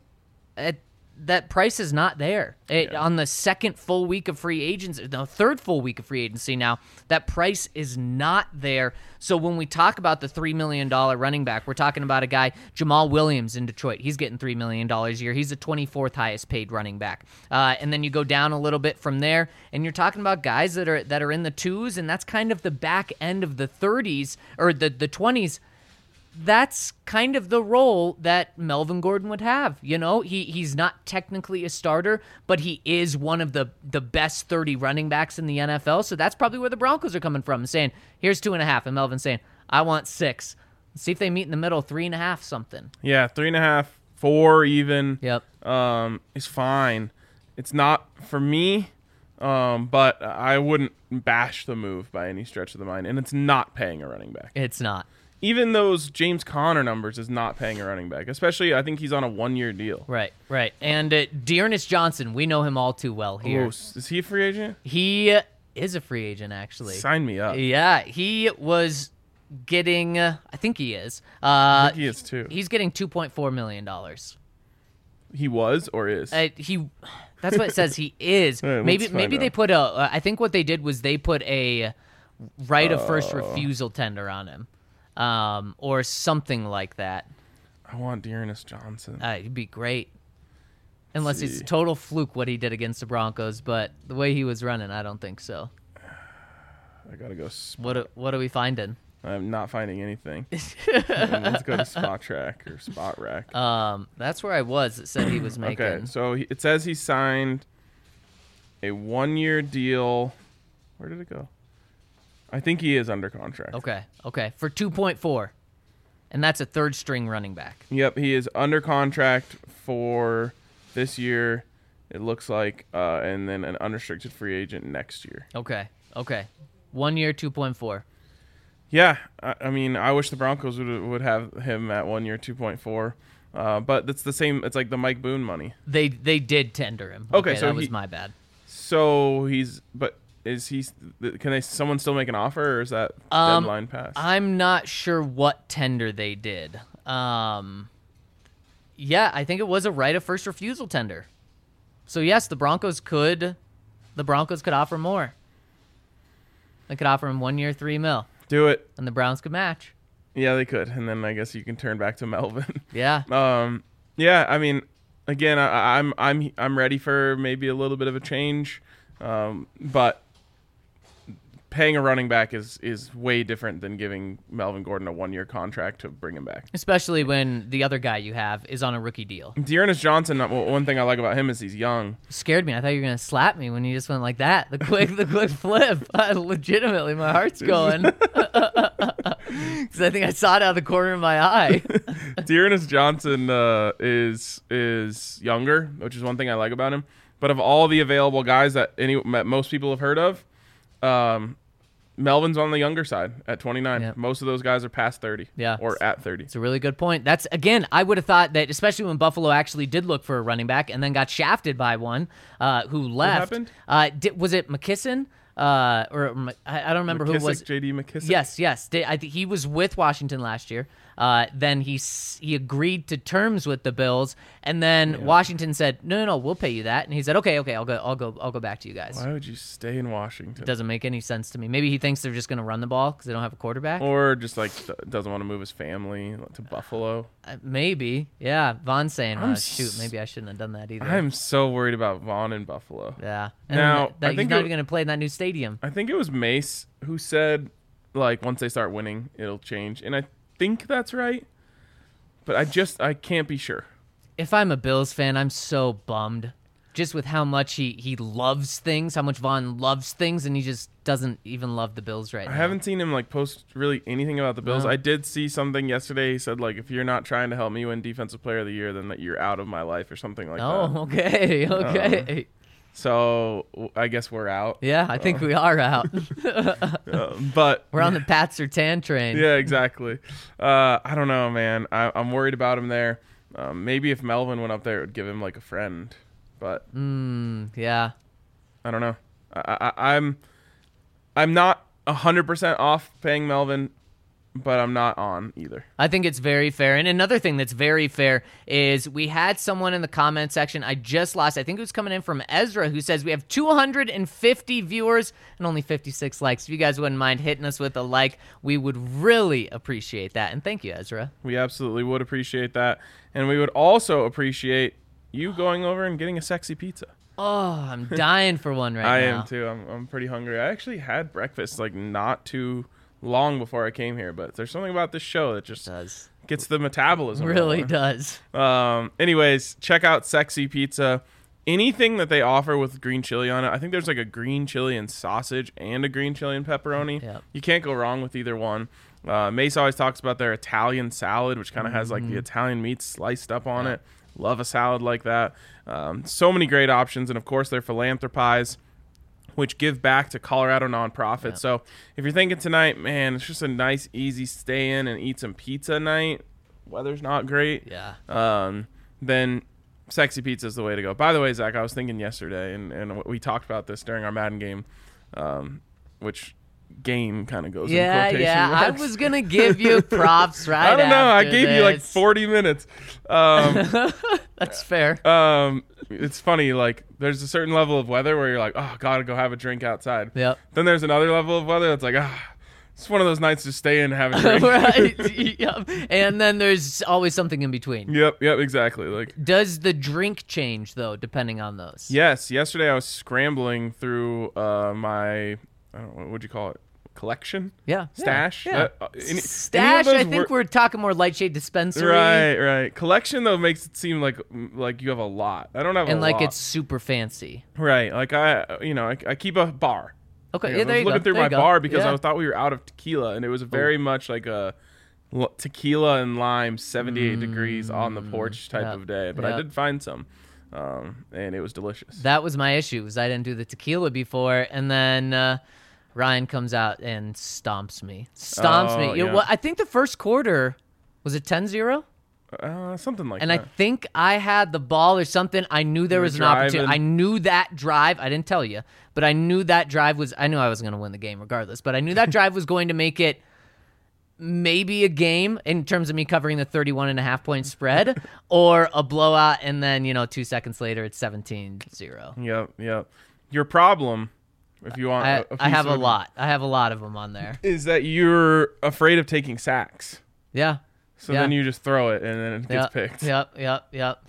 that price is not there. On the second full week of free agency, the third full week of free agency now, that price is not there. So when we talk about the $3 million running back, we're talking about a guy, Jamal Williams in Detroit. He's getting $3 million a year. He's the 24th highest paid running back. And then you go down a little bit from there, and you're talking about guys that are in the 2s, and that's kind of the back end of the 30s, or the 20s. That's kind of the role that Melvin Gordon would have. He's not technically a starter, but he is one of the best 30 running backs in the NFL. So that's probably where the Broncos are coming from, saying, here's 2.5. And Melvin saying, I want 6. Let's see if they meet in the middle, 3.5 something. Yeah, 3.5, 4 even. Yep. Is fine. It's not for me, but I wouldn't bash the move by any stretch of the mind. And it's not paying a running back. It's not. Even those James Conner numbers is not paying a running back. Especially, I think he's on a 1-year deal. Right. And Dearness Johnson, we know him all too well here. Oh, is he a free agent? He is a free agent, actually. Sign me up. Yeah, he was getting, I think he is. I think he is too. He's getting $2.4 million. He was or is? That's what it says he is. All right, maybe let's find they out. put I think what they did was they put a right of first refusal tender on him. Or something like that. I want Dearness Johnson. He'd be great. Unless see. it's a total fluke what he did against the Broncos, but the way he was running, I don't think so. I gotta go. What are we finding? I'm not finding anything. Let's go to Spot Track or Spot Rack. That's where I was. It said he was making. Okay, so it says he signed a 1-year deal. Where did it go? I think he is under contract. Okay. For 2.4. And that's a third string running back. Yep, he is under contract for this year, it looks like, and then an unrestricted free agent next year. Okay. 1 year, 2.4. Yeah, I mean, I wish the Broncos would have him at 1 year, 2.4. But that's the same. It's like the Mike Boone money. They did tender him. Okay, so that was my bad. So is he? Someone still make an offer, or is that deadline passed? I'm not sure what tender they did. Yeah, I think it was a right of first refusal tender. So yes, the Broncos could offer more. They could offer him 1 year, $3 million, Do it. and the Browns could match. Yeah, they could, and then I guess you can turn back to Melvin. Yeah. Yeah. I mean, again, I'm ready for maybe a little bit of a change, but paying a running back is way different than giving Melvin Gordon a 1 year contract to bring him back. Especially when the other guy you have is on a rookie deal. Dearness Johnson, one thing I like about him is he's young. Scared me. I thought you were gonna slap me when you just went like that. The quick flip. Legitimately, my heart's going. Because I think I saw it out of the corner of my eye. Dearness Johnson is younger, which is one thing I like about him. But of all the available guys that most people have heard of, Melvin's on the younger side at 29. Yep. Most of those guys are past 30 or at 30. It's a really good point. That's, again, I would have thought that, especially when Buffalo actually did look for a running back and then got shafted by one who left. What happened? Was it McKisson? I don't remember who it was. J.D. McKissick? Yes. I think he was with Washington last year. Then he agreed to terms with the Bills, and then Washington said, "No, we'll pay you that." And he said, "Okay, I'll go back to you guys." Why would you stay in Washington? It doesn't make any sense to me. Maybe he thinks they're just going to run the ball because they don't have a quarterback, or just like doesn't want to move his family to Buffalo. Maybe, yeah. Von's saying, "Shoot, maybe I shouldn't have done that either." I'm so worried about Vaughn in Buffalo. Yeah, now he's not even going to play in that new stadium. I think it was Mace who said, like, once they start winning, it'll change, and I think that's right. But I can't be sure. If I'm a Bills fan, I'm so bummed. Just with how much he loves things, how much Vaughn loves things, and he just doesn't even love the Bills right now. I haven't seen him, like, post really anything about the Bills. No. I did see something yesterday. He said, like, if you're not trying to help me win Defensive Player of the Year, then that you're out of my life or something like that. Oh, okay. So I guess we're out. Yeah, I think we are out. But We're on the Pat Surtain train. Yeah, exactly. I don't know, man. I'm worried about him there. Maybe if Melvin went up there, it would give him like a friend. But yeah, I don't know. I'm not 100% off paying Melvin, but I'm not on either. I think it's very fair. And another thing that's very fair is we had someone in the comment section, I just lost, I think it was coming in from Ezra, who says we have 250 viewers and only 56 likes. If you guys wouldn't mind hitting us with a like, we would really appreciate that. And thank you, Ezra. We absolutely would appreciate that. And we would also appreciate you going over and getting a sexy pizza. Oh, I'm dying for one right now. I am too. I'm pretty hungry. I actually had breakfast like not too long before I came here, but there's something about this show that just gets the metabolism really going. Does. Anyways, check out Sexy Pizza. Anything that they offer with green chili on it, I think there's like a green chili and sausage and a green chili and pepperoni. Yep. You can't go wrong with either one. Mace always talks about their Italian salad, which kind of has like the Italian meat sliced up on it. Love a salad like that. So many great options, and of course their philanthropies, which give back to Colorado nonprofits. Yeah. So if you're thinking tonight, man, it's just a nice, easy stay in and eat some pizza night. Weather's not great. Yeah. Then Sexy Pizza is the way to go. By the way, Zach, I was thinking yesterday, and we talked about this during our Madden game, which game kind of goes in quotation marks. I was going to give you props right I don't know. I gave you like this. 40 minutes. That's fair. It's funny, like there's a certain level of weather where you're like, oh, gotta go have a drink outside. Yep. Then there's another level of weather that's like, it's one of those nights to stay in and have a drink. Right. Yep. And then there's always something in between. Yep, exactly. Like, does the drink change though, depending on those? Yes. Yesterday I was scrambling through my, I don't know, what'd you call it? collection. Yeah. Stash. Yeah. Any of Stash, those I think we're talking more light shade dispensary. Right. Collection though makes it seem like you have a lot. I don't have And a like lot. it's super fancy. Right. Like I keep a bar. Okay, Like, yeah, I there was you go. looking through There my you go. bar because Yeah. I thought we were out of tequila, and it was very much like a tequila and lime 78 degrees on the porch type yeah, of day. But I yeah. did find some, and it was delicious. That was my issue, was I didn't do the tequila before, and then Ryan comes out and stomps me. Oh, yeah. Well, I think the first quarter, was it 10-0? Something like And that. I think I had the ball or something. I knew there were was an opportunity. driving. I knew that drive. I didn't tell you, but I knew that drive was. I knew I was going to win the game regardless. But I knew that drive was going to make it maybe a game in terms of me covering the 31.5-point spread, or a blowout. And then 2 seconds later, it's 17-0. Yep. Your problem, if you want, I have a lot. I have a lot of them on there. is that you're afraid of taking sacks. Yeah. So Yeah. then you just throw it, and then it gets picked. Yep.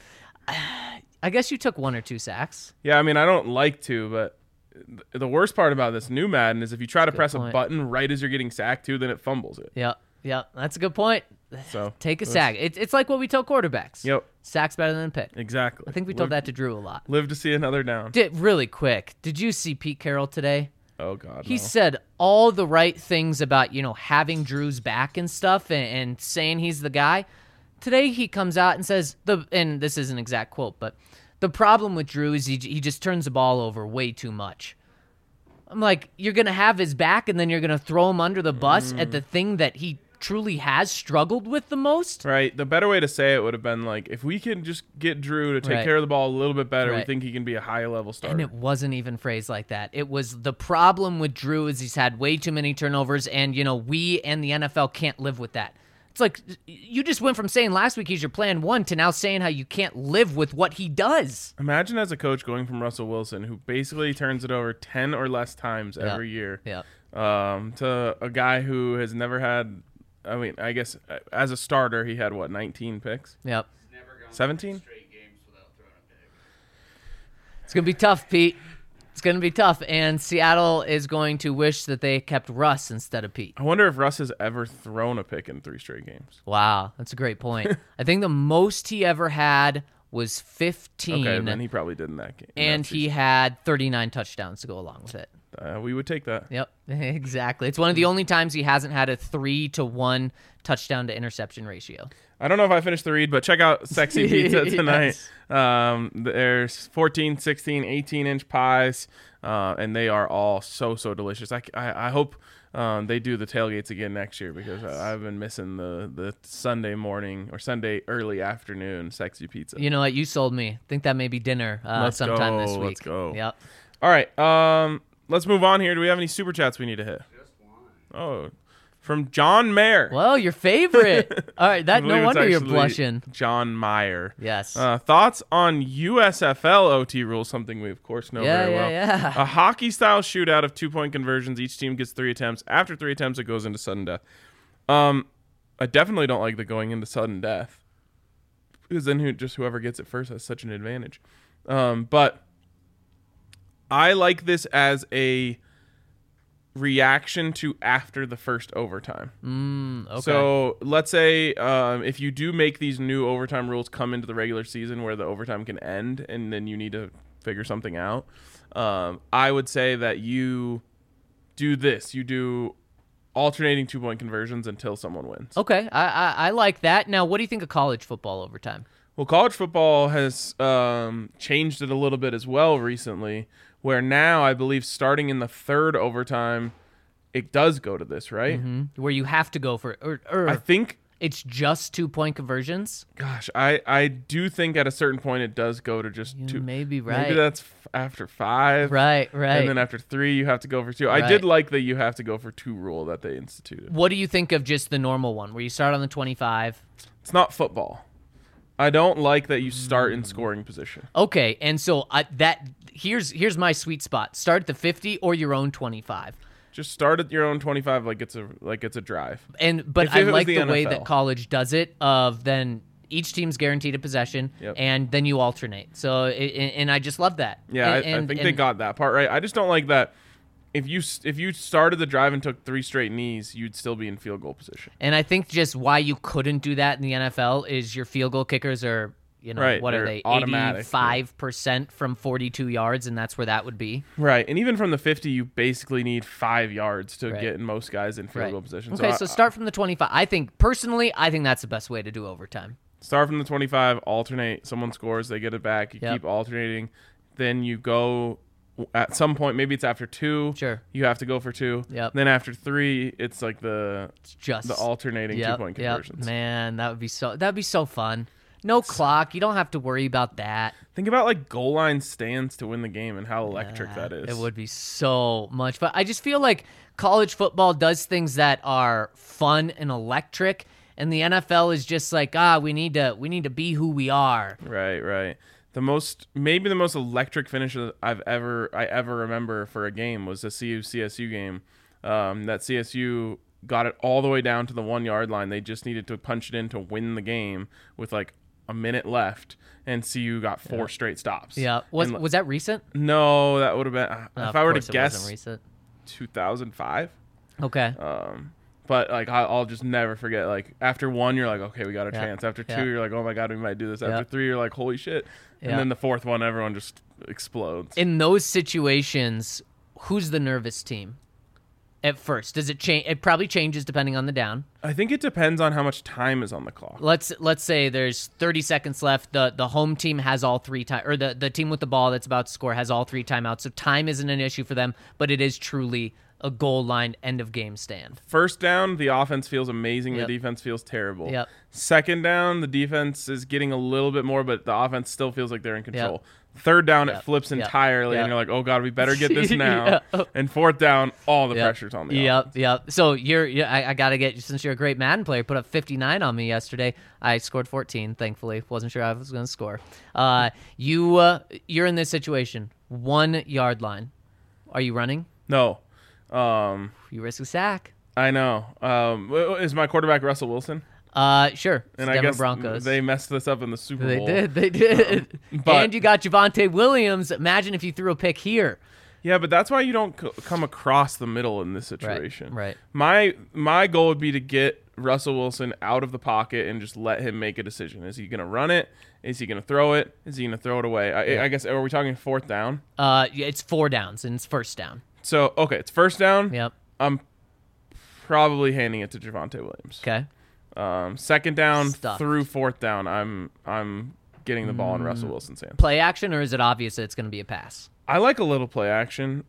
I guess you took 1 or 2 sacks. Yeah, I mean, I don't like to, but the worst part about this new Madden is if you try to press point. a button right as you're getting sacked too, then it fumbles it. Yep. That's a good point. So Take a sack. It's like what we tell quarterbacks. Yep, Sack's better than a pick. exactly. I think we told that to Drew a lot. Live to see another down. Really quick, did you see Pete Carroll today? Oh God, He no. said all the right things about, having Drew's back and stuff and saying he's the guy. Today he comes out and says, and this is an exact quote, but the problem with Drew is he just turns the ball over way too much. I'm like, you're going to have his back and then you're going to throw him under the bus at the thing that he truly has struggled with the most? Right. The better way to say it would have been like, if we can just get Drew to take Right. care of the ball a little bit better, we Right. think he can be a high level starter. And it wasn't even phrased like that. It was the problem with Drew is he's had way too many turnovers, and we and the NFL can't live with that. It's like you just went from saying last week he's your plan one to now saying how you can't live with what he does. Imagine as a coach going from Russell Wilson, who basically turns it over 10 or less times every year, Yeah. to a guy who has never had. I mean, I guess as a starter, he had 19 picks, Yep. 17. It's going to be tough, Pete. It's going to be tough, and Seattle is going to wish that they kept Russ instead of Pete. I wonder if Russ has ever thrown a pick in 3 straight games. Wow, that's a great point. I think the most he ever had was 15, Okay, then he probably did in that game. and he had 39 touchdowns to go along with it. We would take that. Yep, exactly. It's one of the only times he hasn't had a 3-to-1 touchdown to interception ratio. I don't know if I finished the read, but check out Sexy Pizza tonight. Yes. There's 14, 16, 18-inch pies, and they are all so delicious. I hope they do the tailgates again next year because I've been missing the Sunday morning or Sunday early afternoon Sexy Pizza. You know what? You sold me. I think that may be dinner sometime this week. Let's go. Yep. All right, let's move on here. Do we have any super chats we need to hit? Just one. Oh, from John Mayer. Well, your favorite. All right, I no believe it's wonder you're actually blushing. John Meyer. Yes. Thoughts on USFL OT rules, something we, of course, know very well. Yeah. A hockey-style shootout of 2-point conversions. Each team gets 3 attempts. After 3 attempts, it goes into sudden death. I definitely don't like the going into sudden death because then whoever gets it first has such an advantage. But I like this as a reaction to after the first overtime. Okay. So let's say if you do make these new overtime rules come into the regular season where the overtime can end and then you need to figure something out, I would say that you do this. You do alternating 2-point conversions until someone wins. Okay, I like that. Now, what do you think of college football overtime? Well, college football has changed it a little bit as well recently, where now I believe starting in the 3rd overtime, it does go to this, right? Where you have to go for or I think, it's just 2-point conversions? gosh, I do think at a certain point it does go to just You 2. may be right. Maybe that's after 5. Right. And then after 3, you have to go for 2. I Right. did like the you have to go for 2 rule that they instituted. What do you think of just the normal one, where you start on the 25? It's not football. I don't like that you start in scoring position. Okay, and so here's my sweet spot. Start at the 50 or your own 25. Just start at your own 25 like it's a drive. But If I it was like the the way NFL. that college does it. Of then each team's guaranteed a possession, Yep. and then you alternate. So and I just love that. Yeah, I And- think and- they got that part right. I just don't like that if you started the drive and took 3 straight knees, you'd still be in field goal position. And I think just why you couldn't do that in the NFL is your field goal kickers are, Right, what are they're they? automatic, 85% from 42 yards, and that's where that would be. Right, and even from the 50, you basically need 5 yards to Right. get most guys in field goal position. Okay, so start from the 25. I think that's the best way to do overtime. Start from the 25, alternate. Someone scores, they get it back. You Yep. keep alternating. Then you go at some point. Maybe it's after 2. Sure. You have to go for 2. Yep. Then after 3, it's like It's just the alternating 2-point conversions. Man, that'd be so fun. No clock. You don't have to worry about that. Think about like goal line stands to win the game and how electric that is. It would be so much fun. I just feel like college football does things that are fun and electric, and the NFL is just like, we need to be who we are. Right. Maybe the most electric finish that I ever remember for a game was the CSU game. That CSU got it all the way down to the 1-yard line. They just needed to punch it in to win the game with like a minute left, and CU got 4 straight stops. Yeah. Was that recent? No, that would have been if I were to It guess wasn't recent. 2005. Okay. But like I'll just never forget. Like after 1, you're like, okay, we got a chance. After 2, you're like, oh my god, we might do this. After 3, you're like, holy shit. And Yeah. then the 4th one, everyone just explodes. In those situations, who's the nervous team? At first, does it change? It probably changes depending on the down. I think it depends on how much time is on the clock. Let's say there's 30 seconds left. The home team has all 3 time, or the team with the ball that's about to score has all 3 timeouts. So time isn't an issue for them, but it is truly a goal line end of game stand. First down, the offense feels amazing. Yep. The defense feels terrible. Yep. Second down, the defense is getting a little bit more, but the offense still feels like they're in control. Third down, it flips entirely, and you're like, oh god, we better get this now. And 4th down, all the pressure's on the offense. Yep. So I gotta get, since you're a great Madden player, put up 59 on me yesterday. I scored 14, thankfully. Wasn't sure I was gonna score. You're in this situation, 1 yard line. Are you running? No. You risk a sack. I know. Is my quarterback Russell Wilson? Sure. And Denver I guess Broncos. they messed this up in the Super Bowl. They did. But- And you got Javonte Williams. Imagine if you threw a pick here. Yeah, but that's why you don't come across the middle in this situation. Right. My goal would be to get Russell Wilson out of the pocket and just let him make a decision. Is he going to run it? Is he going to throw it? Is he going to throw it away? I guess, are we talking 4th down? It's 4 downs and it's first down. So, okay, it's first down. Yep. I'm probably handing it to Javonte Williams. Okay. Second down Stuffed. through 4th down, I'm getting the ball in Russell Wilson's hands. Play action, or is it obvious that it's going to be a pass? I like a little play action.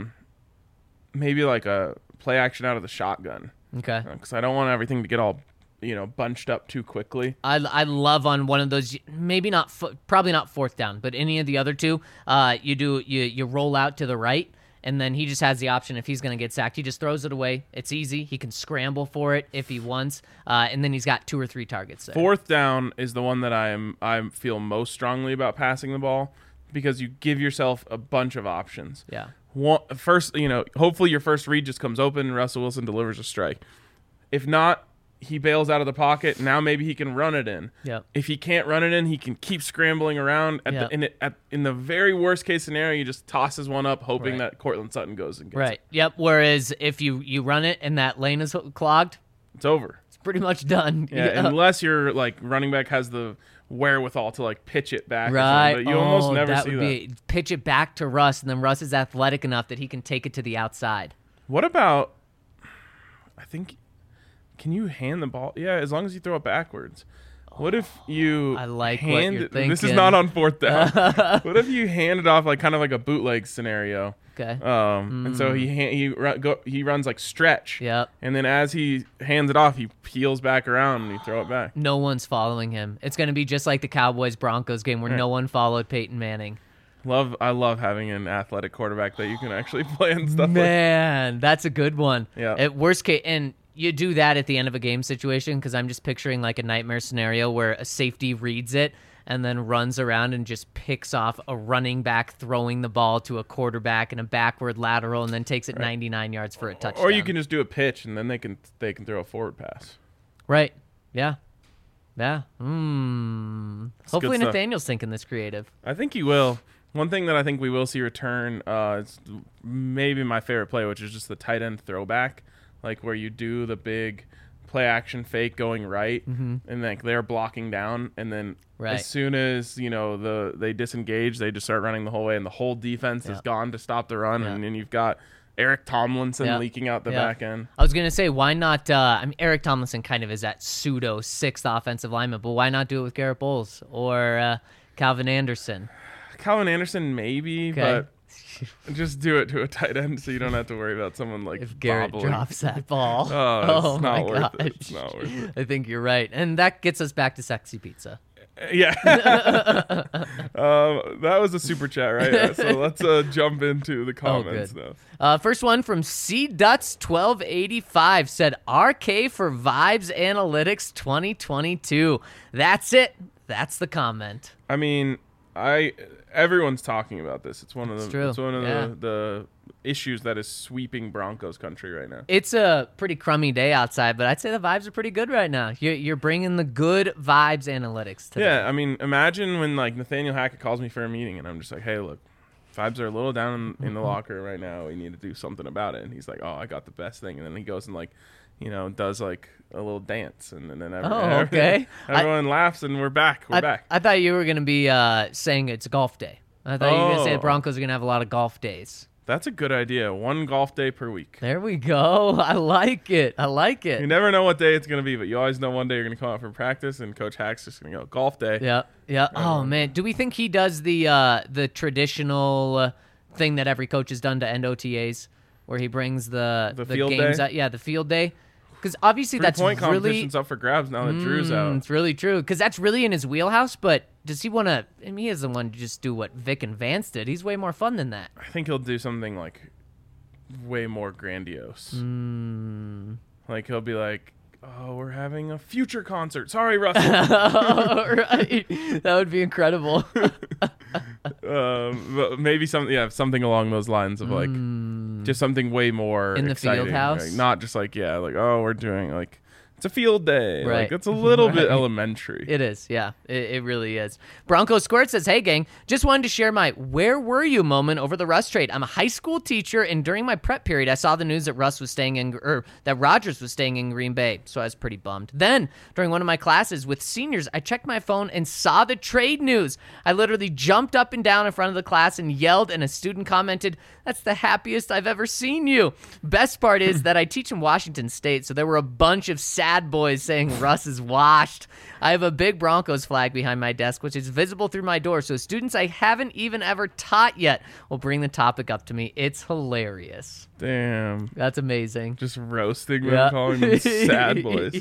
Maybe like a play action out of the shotgun. Okay. Because I don't want everything to get all, bunched up too quickly. I love on one of those, maybe not, probably not 4th down, but any of the other 2, you roll out to the right, and then he just has the option if he's going to get sacked. He just throws it away. It's easy. He can scramble for it if he wants, and then he's got 2 or 3 targets there. 4th down is the one that I feel most strongly about passing the ball, because you give yourself a bunch of options. Yeah. First, hopefully your first read just comes open and Russell Wilson delivers a strike. If not, he bails out of the pocket. Now maybe he can run it in. Yep. If he can't run it in, he can keep scrambling around. In the very worst case scenario, he just tosses one up, hoping that Cortland Sutton goes and gets Right. it. Yep. Whereas if you run it and that lane is clogged, It's over. it's pretty much done. Yeah, unless your running back has the wherewithal to pitch it back. Right. Or something, but you almost never see that. Pitch it back to Russ, and then Russ is athletic enough that he can take it to the outside. What about? I think. Can you hand the ball? Yeah, as long as you throw it backwards. What if you I like what hand you're it? This is thinking. not on 4th down. What if you hand it off kind of like a bootleg scenario? Okay. And so he runs like stretch. Yep. And then as he hands it off, he peels back around and you throw it back. No one's following him. It's going to be just like the Cowboys-Broncos game where no one followed Peyton Manning. I love having an athletic quarterback that you can actually play and stuff. Man, that's a good one. Yeah. At worst case, and you do that at the end of a game situation, because I'm just picturing like a nightmare scenario where a safety reads it and then runs around and just picks off a running back throwing the ball to a quarterback in a backward lateral and then takes it 99 yards for a touchdown. Or you can just do a pitch and then they can throw a forward pass. Right. Yeah. Yeah. Hopefully good stuff. Nathaniel's thinking this creative. I think he will. One thing that I think we will see return is maybe my favorite play, which is just the tight end throwback, like where you do the big play action fake going right, and like they're blocking down, and then as soon as they disengage, they just start running the whole way, and the whole defense is gone to stop the run, and then you've got Eric Tomlinson leaking out the back end. I was gonna say, why not? Eric Tomlinson kind of is that pseudo sixth offensive lineman, but why not do it with Garrett Bowles or Calvin Anderson? Calvin Anderson, maybe, but just do it to a tight end so you don't have to worry about someone like if Garrett bobbling. Drops that ball. It's not worth it. It's not worth it. I think you're right, and that gets us back to sexy pizza. Yeah. That was a super chat, right? So let's jump into the comments now. First one from CDuts1285 said, RK for Vibes Analytics 2022. That's it. That's the comment. I mean, everyone's talking about this. It's one of the issues that is sweeping Broncos country right now. It's a pretty crummy day outside, but I'd say the vibes are pretty good right now. You're bringing the good vibes analytics today. Yeah, I mean, imagine when like Nathaniel Hackett calls me for a meeting and I'm just like, hey, look, vibes are a little down in the locker right now. We need to do something about it. And he's like, oh, I got the best thing. And then he goes and like, does like a little dance, and then everyone laughs, and we're back. We're back. I thought you were going to be saying it's golf day. I thought you were going to say the Broncos are going to have a lot of golf days. That's a good idea. One golf day per week. There we go. I like it. You never know what day it's going to be, but you always know one day you're going to come out for practice, and Coach Hack's just going to go, golf day. Yeah. Oh, man. Do we think he does the traditional thing that every coach has done to end OTAs, where he brings the field games day? out? Yeah, the field day. Because obviously that's point really... competition's up for grabs now that Drew's out. It's really true. Because that's really in his wheelhouse, but does he want to... I mean, he doesn't want to just do what Vic and Vance did. He's way more fun than that. I think he'll do something, like, way more grandiose. Like, he'll be like, oh, we're having a future concert. Sorry, Russell. Right. That would be incredible. But maybe something along those lines of, like, just something way more in the exciting. field house, like, not just like we're doing like it's a field day. Right. Like, it's a little bit elementary. It is, yeah. It really is. Bronco Squirt says, hey, gang, just wanted to share my where were you moment over the Russ trade. I'm a high school teacher, and during my prep period, I saw the news that Rodgers was staying in Green Bay, so I was pretty bummed. Then, during one of my classes with seniors, I checked my phone and saw the trade news. I literally jumped up and down in front of the class and yelled, and a student commented, that's the happiest I've ever seen you. Best part is that I teach in Washington State, so there were a bunch of sad boys saying Russ is washed. I have a big Broncos flag behind my desk, which is visible through my door, so students I haven't even ever taught yet will bring the topic up to me. It's hilarious. Damn. That's amazing. Just roasting them, calling them sad boys.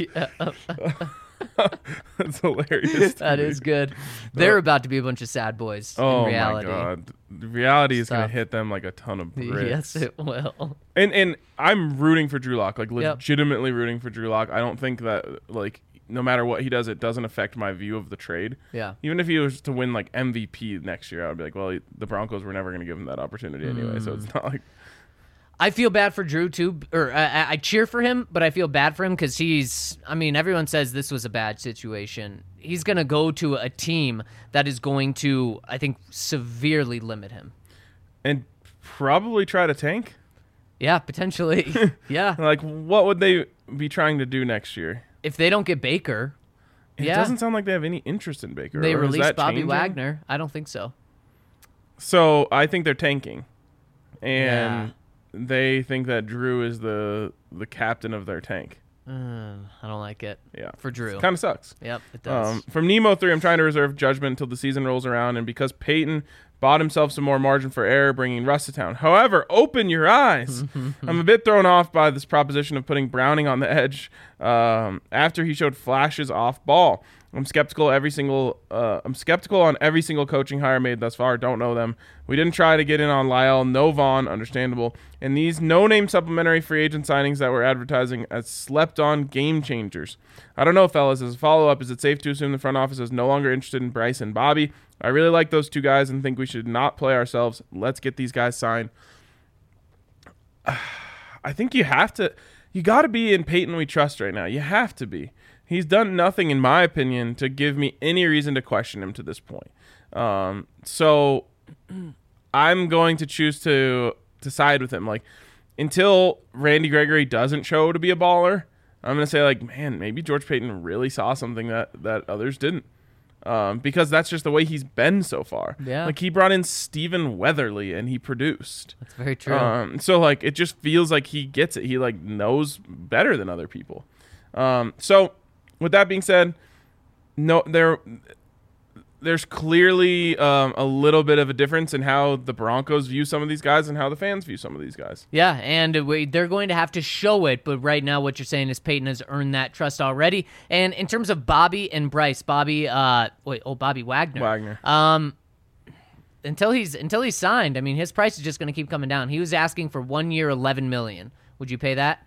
That's hilarious. That is good. They're about to be a bunch of sad boys in reality. Oh, my God. Reality is going to hit them like a ton of bricks. Yes, it will. And I'm rooting for Drew Lock, like legitimately rooting for Drew Lock. I don't think that, like, no matter what he does, it doesn't affect my view of the trade. Yeah. Even if he was to win, like, MVP next year, I would be like, well, the Broncos were never going to give him that opportunity anyway, so it's not like... I feel bad for Drew, too, or I cheer for him, but I feel bad for him because everyone says this was a bad situation. He's going to go to a team that is going to, I think, severely limit him. And probably try to tank? Yeah, potentially. Yeah. Like, what would they be trying to do next year? If they don't get Baker. It doesn't sound like they have any interest in Baker. They released Bobby Wagner. I don't think so. So, I think they're tanking. And... they think that Drew is the captain of their tank. I don't like it. Yeah. For Drew. Kind of sucks. Yep, it does. From Nemo3, I'm trying to reserve judgment until the season rolls around, and because Peyton bought himself some more margin for error, bringing Russ to town. However, open your eyes. I'm a bit thrown off by this proposition of putting Browning on the edge after he showed flashes off ball. I'm skeptical on every single coaching hire made thus far. Don't know them. We didn't try to get in on Lyle, no Vaughn, understandable. And these no-name supplementary free agent signings that we're advertising as slept-on game changers. I don't know, fellas. As a follow-up, is it safe to assume the front office is no longer interested in Bryce and Bobby? I really like those two guys and think we should not play ourselves. Let's get these guys signed. I think you have to. You got to be in Peyton we trust right now. You have to be. He's done nothing, in my opinion, to give me any reason to question him to this point. So I'm going to choose to side with him. Like, until Randy Gregory doesn't show to be a baller, I'm going to say, like, man, maybe George Payton really saw something that others didn't. Because that's just the way he's been so far. Yeah. Like, he brought in Stephen Weatherly and he produced. That's very true. So, like, it just feels like he gets it. He, like, knows better than other people. So, with that being said, no, there's clearly a little bit of a difference in how the Broncos view some of these guys and how the fans view some of these guys. Yeah, and they're going to have to show it, but right now what you're saying is Peyton has earned that trust already. And in terms of Bobby and Bryce, Bobby Wagner. Until he's signed, I mean, his price is just going to keep coming down. He was asking for 1 year, $11 million. Would you pay that?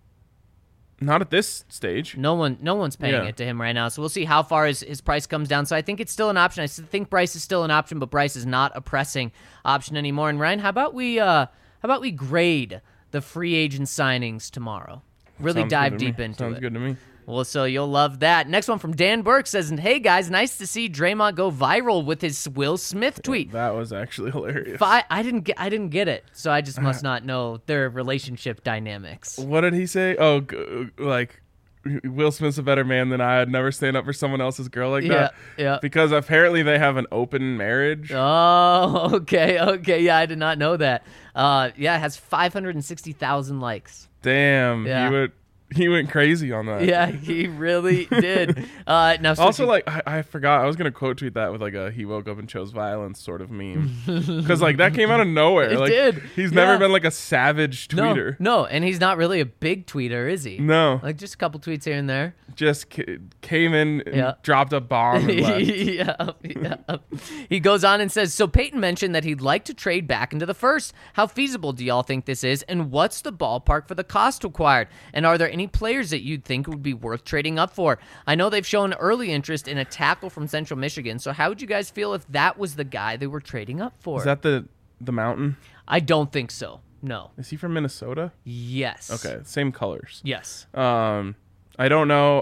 Not at this stage. No one's paying it to him right now. So we'll see how far his price comes down. So I think it's still an option. I think Bryce is still an option, but Bryce is not a pressing option anymore. And Ryan, how about we grade the free agent signings tomorrow? Really dive deep into it. Sounds good to me. Well, so you'll love that. Next one from Dan Burke says, "Hey guys, nice to see Draymond go viral with his Will Smith tweet." That was actually hilarious. I didn't get it, so I just must not know their relationship dynamics. What did he say? Oh, like, Will Smith's a better man than I. I'd never stand up for someone else's girl like that. Yeah. Because apparently they have an open marriage. Oh, okay. Yeah, I did not know that. It has 560,000 likes. Damn. Yeah. He went crazy on that. Yeah, he really did. Now, also, like, I forgot. I was going to quote tweet that with, like, a he woke up and chose violence sort of meme. Because, like, that came out of nowhere. It like, did. He's never been, like, a savage tweeter. No, and he's not really a big tweeter, is he? No. Like, just a couple tweets here and there. Just came in and dropped a bomb and left. Yeah. He goes on and says, "So Peyton mentioned that he'd like to trade back into the first. How feasible do y'all think this is? And what's the ballpark for the cost required? And are there any players that you'd think would be worth trading up for? I know they've shown early interest in a tackle from Central Michigan. So how would you guys feel if that was the guy they were trading up for?" Is that the mountain? I don't think so. No. Is he from Minnesota? Yes. Okay, same colors. Yes. I don't know.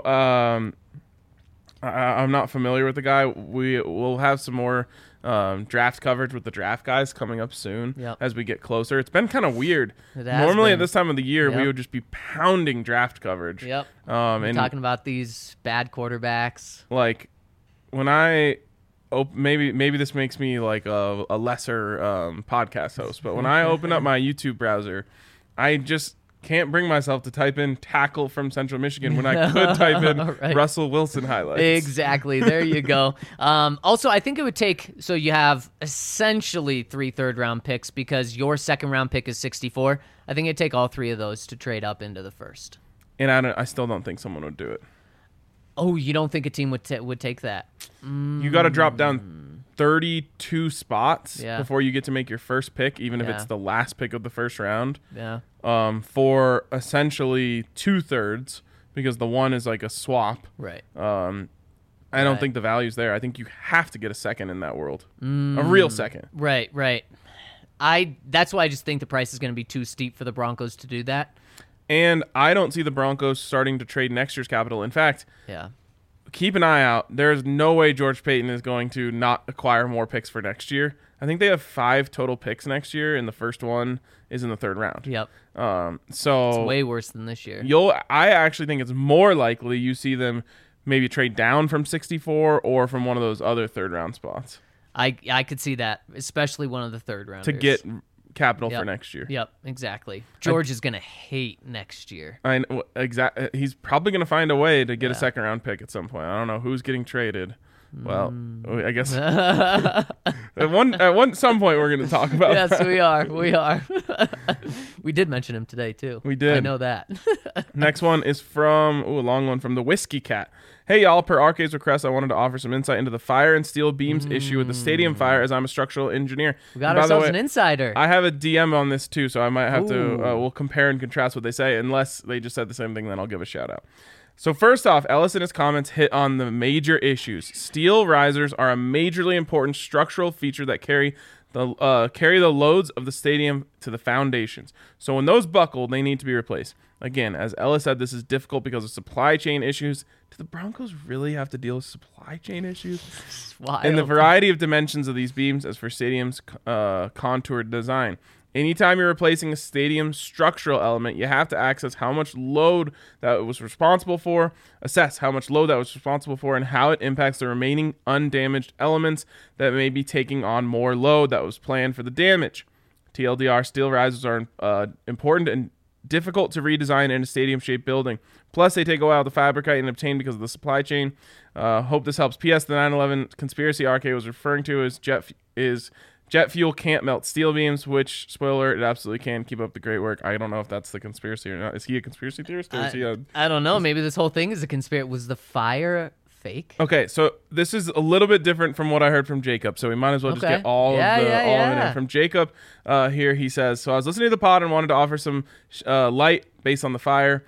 I'm not familiar with the guy. We'll have some more draft coverage with the draft guys coming up soon as we get closer. It's been kind of weird. Normally at this time of the year, we would just be pounding draft coverage. Yep. And talking about these bad quarterbacks. Like, when I maybe this makes me like a lesser podcast host, but when I open up my YouTube browser, I just can't bring myself to type in tackle from Central Michigan when I could type in Russell Wilson highlights. Exactly. There you go. Also, I think it would take, so you have essentially 3 third-round picks because your second-round pick is 64. I think it'd take all 3 of those to trade up into the first. And I still don't think someone would do it. Oh, you don't think a team would take that? You got to drop down 32 spots before you get to make your first pick, even if it's the last pick of the first round. Yeah. For essentially 2/3, because the one is like a swap. Right. I don't think the value's there. I think you have to get a second in that world, a real second. Right. That's why I just think the price is going to be too steep for the Broncos to do that. And I don't see the Broncos starting to trade next year's capital. In fact, keep an eye out. There's no way George Payton is going to not acquire more picks for next year. I think they have 5 total picks next year, and the first one is in the 3rd round. Yep. So it's way worse than this year. I actually think it's more likely you see them maybe trade down from 64 or from one of those other 3rd round spots. I could see that, especially one of the 3rd rounders. To get capital for next year. Yep, exactly. George is going to hate next year. Exactly. He's probably going to find a way to get a 2nd round pick at some point. I don't know who's getting traded. Well, I guess at some point we're going to talk about Yes, that. we are. We did mention him today, too. We did. I know that. Next one is from, a long one, from the Whiskey Cat. Hey, y'all, per Arcade's request, I wanted to offer some insight into the fire and steel beams issue with the stadium fire, as I'm a structural engineer. We got ourselves an insider. I have a DM on this, too, so I might have to, we'll compare and contrast what they say. Unless they just said the same thing, then I'll give a shout out. So first off, Ellis in his comments hit on the major issues. Steel risers are a majorly important structural feature that carry carry the loads of the stadium to the foundations. So when those buckle, they need to be replaced. Again, as Ella said, this is difficult because of supply chain issues. Do the Broncos really have to deal with supply chain issues? And the variety of dimensions of these beams as for stadium's contoured design. Anytime you're replacing a stadium structural element, you have to access how much load that it was responsible for, assess how much load that was responsible for, and how it impacts the remaining undamaged elements that may be taking on more load that was planned for the damage. TLDR, steel risers are important and difficult to redesign in a stadium-shaped building. Plus, they take a while to fabricate and obtain because of the supply chain. Hope this helps. P.S. The 9/11 conspiracy RK was referring to is jet fuel can't melt steel beams, which, spoiler, it absolutely can. Keep up the great work. I don't know if that's the conspiracy or not. Is he a conspiracy theorist? Or is he I don't know. Maybe this whole thing is a conspiracy. Was the fire fake? Okay, so this is a little bit different from what I heard from Jacob, so we might as well just get all of it in. From Jacob here, he says, so I was listening to the pod and wanted to offer some light based on the fire.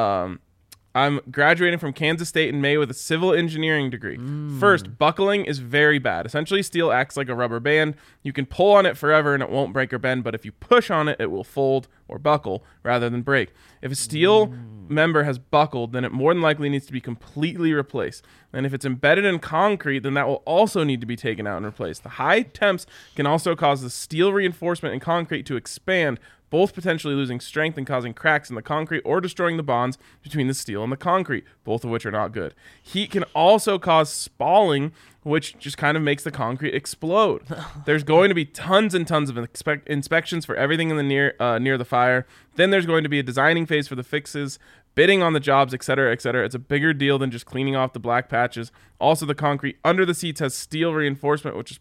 I'm graduating from Kansas State in May with a civil engineering degree. First, buckling is very bad. Essentially, steel acts like a rubber band. You can pull on it forever and it won't break or bend, but if you push on it, it will fold or buckle rather than break. If a steel member has buckled, then it more than likely needs to be completely replaced. And if it's embedded in concrete, then that will also need to be taken out and replaced. The high temps can also cause the steel reinforcement in concrete to expand, both potentially losing strength and causing cracks in the concrete or destroying the bonds between the steel and the concrete, both of which are not good. Heat can also cause spalling, which just kind of makes the concrete explode. There's going to be tons and tons of inspections for everything in the near the fire. Then there's going to be a designing phase for the fixes, bidding on the jobs, etc., etc. It's a bigger deal than just cleaning off the black patches. Also, the concrete under the seats has steel reinforcement, which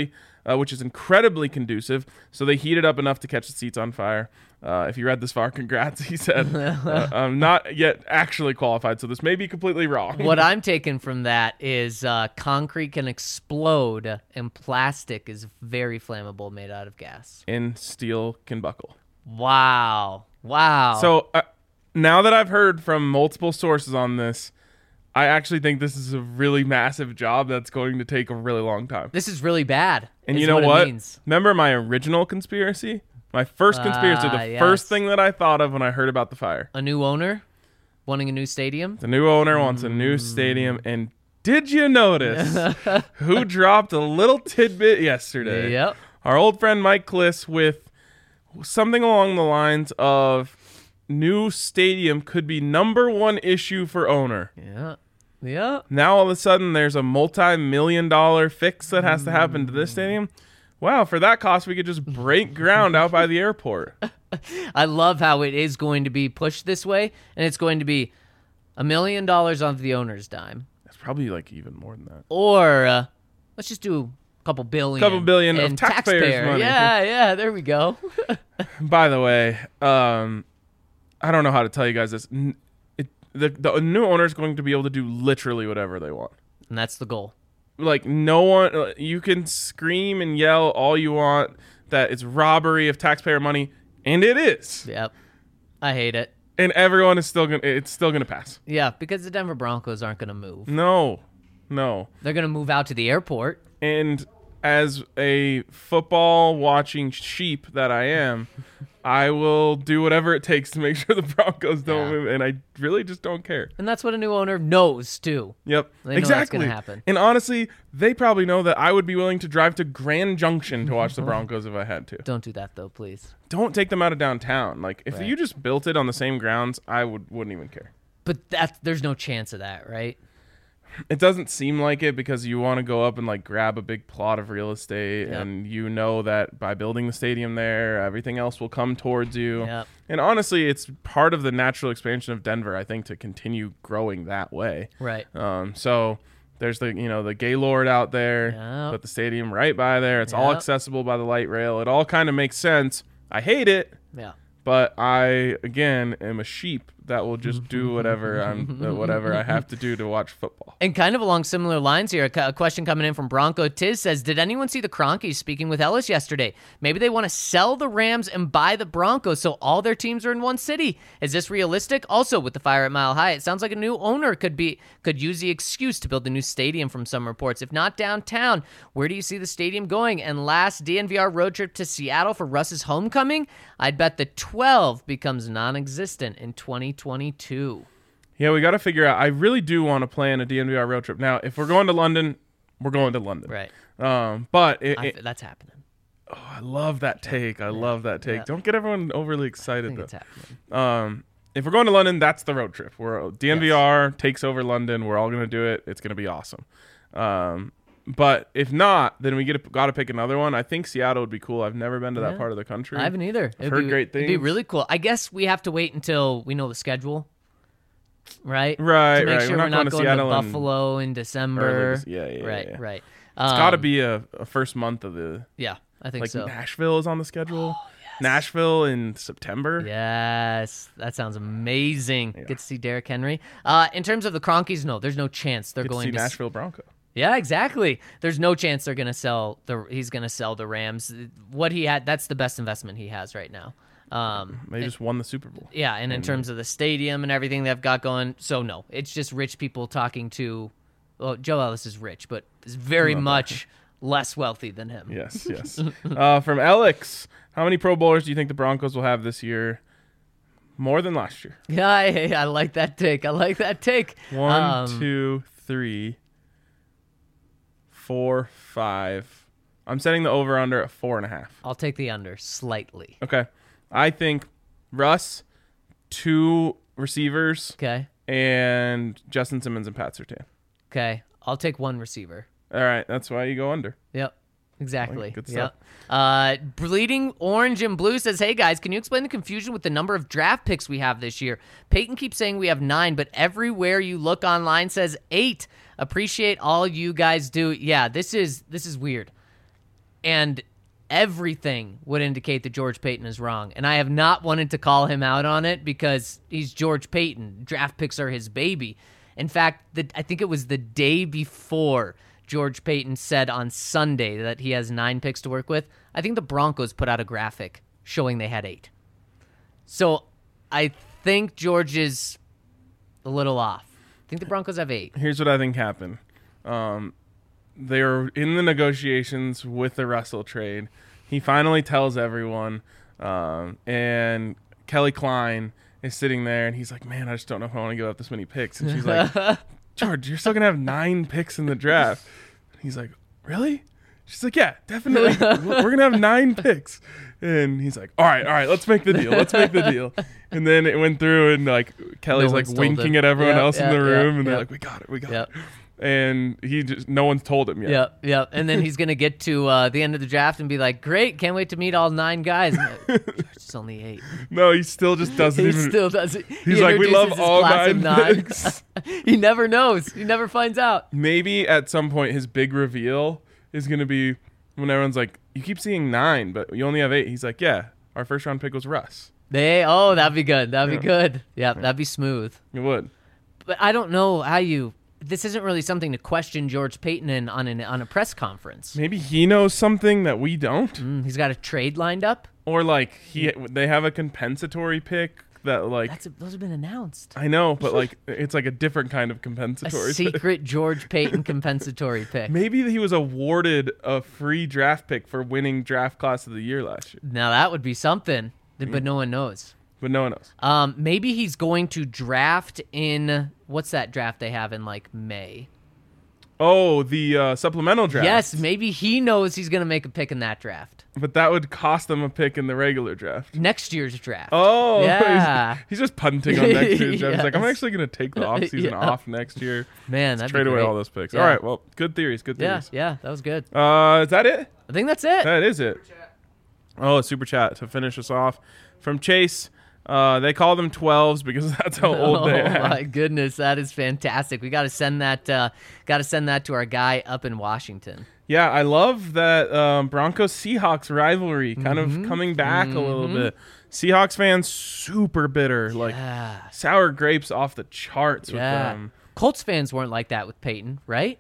is incredibly conducive. So they heat it up enough to catch the seats on fire. If you read this far, congrats, he said. I'm not yet actually qualified, so this may be completely wrong. What I'm taking from that is concrete can explode and plastic is very flammable, made out of gas. And steel can buckle. Wow. So now that I've heard from multiple sources on this, I actually think this is a really massive job that's going to take a really long time. This is really bad. And you know what? Remember my original conspiracy? My first conspiracy, the first thing that I thought of when I heard about the fire. A new owner wanting a new stadium? The new owner wants a new stadium. And did you notice who dropped a little tidbit yesterday? Yep. Our old friend Mike Kliss with something along the lines of new stadium could be #1 issue for owner. Yeah. Now all of a sudden there's a multi-million-dollar fix that has to happen to this stadium. Wow, for that cost we could just break ground out by the airport. I love how it is going to be pushed this way, and it's going to be $1 million on the owner's dime. That's probably like even more than that. Or let's just do a couple billion of taxpayers' money. Yeah, there we go. By the way, I don't know how to tell you guys this. The new owner is going to be able to do literally whatever they want. And that's the goal. Like, no one, you can scream and yell all you want that it's robbery of taxpayer money, and it is. Yep. I hate it. And everyone is still gonna pass. Yeah, because the Denver Broncos aren't gonna move. No. They're gonna move out to the airport. And as a football watching sheep that I am, I will do whatever it takes to make sure the Broncos don't move, and I really just don't care. And that's what a new owner knows too. Yep, they know exactly. That's gonna happen. And honestly, they probably know that I would be willing to drive to Grand Junction to watch the Broncos if I had to. Don't do that though, please. Don't take them out of downtown. Like, if you just built it on the same grounds, I wouldn't even care. But there's no chance of that, right? It doesn't seem like it because you want to go up and like grab a big plot of real estate, and you know that by building the stadium there, everything else will come towards you. Yep. And honestly, it's part of the natural expansion of Denver, I think, to continue growing that way. Right. So there's the Gaylord out there, put the stadium right by there. It's all accessible by the light rail. It all kind of makes sense. I hate it. Yeah. But I, again, am a sheep that will just do whatever I have to do to watch football. And kind of along similar lines here, a question coming in from Bronco Tiz says, did anyone see the Cronkies speaking with Ellis yesterday? Maybe they want to sell the Rams and buy the Broncos so all their teams are in one city. Is this realistic? Also, with the fire at Mile High, it sounds like a new owner could use the excuse to build a new stadium from some reports. If not downtown, where do you see the stadium going? And last, DNVR road trip to Seattle for Russ's homecoming? I'd bet the 12 becomes non-existent in 2022. Yeah, we got to figure out. I really do want to plan a DNVR road trip. Now, if we're going to London, we're going to London. Right. But that's happening. Oh, I love that take. I love that take. Yeah. Don't get everyone overly excited, I think though. it's happening. If we're going to London, that's the road trip. DNVR takes over London. We're all going to do it. It's going to be awesome. But if not, then we got to pick another one. I think Seattle would be cool. I've never been to that part of the country. I haven't either. I've heard great things. It'd be really cool. I guess we have to wait until we know the schedule, right? Right, to make right. sure we're not going to Seattle Buffalo in December. Yeah. Right. It's got to be a first month of the. Yeah, I think like so. Nashville is on the schedule. Oh, yes. Nashville in September. Yes, that sounds amazing. Yeah. Get to see Derrick Henry. In terms of the Cronkies, no, there's no chance they're Get going to see Nashville Bronco. Yeah, exactly. There's no chance they're going to sell he's going to sell the Rams. What he had, that's the best investment he has right now. They just won the Super Bowl. Yeah, and in terms of the stadium and everything they've got going, so no, it's just rich people talking to. Well, Joe Ellis is rich, but is very much less wealthy than him. Yes. From Alex, how many Pro Bowlers do you think the Broncos will have this year? More than last year. Yeah, I like that take. 1, 2, 3, 4, 5. I'm setting the over-under at 4.5. I'll take the under slightly. Okay. I think Russ, 2 receivers, Okay. and Justin Simmons and Pat Surtain. Okay. I'll take 1 receiver. All right. That's why you go under. Yep. Exactly. Good stuff. Yep. Bleeding Orange and Blue says, hey guys, can you explain the confusion with the number of draft picks we have this year? Peyton keeps saying we have 9, but everywhere you look online says 8. Appreciate all you guys do. Yeah, this is weird. And everything would indicate that George Payton is wrong. And I have not wanted to call him out on it because he's George Payton. Draft picks are his baby. In fact, I think it was the day before George Payton said on Sunday that he has 9 picks to work with. I think the Broncos put out a graphic showing they had 8. So I think George is a little off. I think the Broncos have 8. Here's what I think happened. They were in the negotiations with the Russell trade. He finally tells everyone, and Kelly Klein is sitting there, and he's like, man, I just don't know if I want to give up this many picks. And she's like, George, you're still going to have 9 picks in the draft. He's like, really? She's like, yeah, definitely. We're going to have 9 picks. And he's like, all right, let's make the deal. And then it went through, and like Kelly's like winking at everyone else in the room, and they're like, we got it. And no one's told him yet. Yep. And then he's gonna get to the end of the draft and be like, "Great, can't wait to meet all 9 guys." It's only 8. No, he still just doesn't He even. still doesn't. He's like, we love all 9 picks. He never knows. He never finds out. Maybe at some point his big reveal is gonna be when everyone's like, "You keep seeing 9, but you only have 8." He's like, "Yeah, our first round pick was Russ." That'd be good. That'd be good. Yeah, that'd be smooth. It would. But I don't know how you. This isn't really something to question George Payton on a press conference. Maybe he knows something that we don't. He's got a trade lined up. Or like they have a compensatory pick that like Those have been announced. I know, but like it's like a different kind of compensatory A secret George Payton compensatory pick. Maybe he was awarded a free draft pick for winning draft class of the year last year. Now that would be something, but no one knows. But no one knows. Maybe he's going to draft in what's that draft they have in like May? Oh, the supplemental draft. Yes, maybe he knows he's going to make a pick in that draft. But that would cost them a pick in the regular draft. Next year's draft. Oh, yeah. He's just punting on next year's draft. He's like, I'm Yes. actually going to take the offseason off next year. Man, that'd Trade be away great. all those picks. Yeah. All right, well, good theories. Yeah, that was good. Is that it? I think that's it. That is it. Oh, a super chat to finish us off from Chase. They call them 12s because that's how old they are. Oh my goodness, that is fantastic. We got to send that. Got to send that to our guy up in Washington. Yeah, I love that Broncos-Seahawks rivalry kind of coming back a little bit. Seahawks fans super bitter, like sour grapes off the charts with them. Colts fans weren't like that with Peyton, right?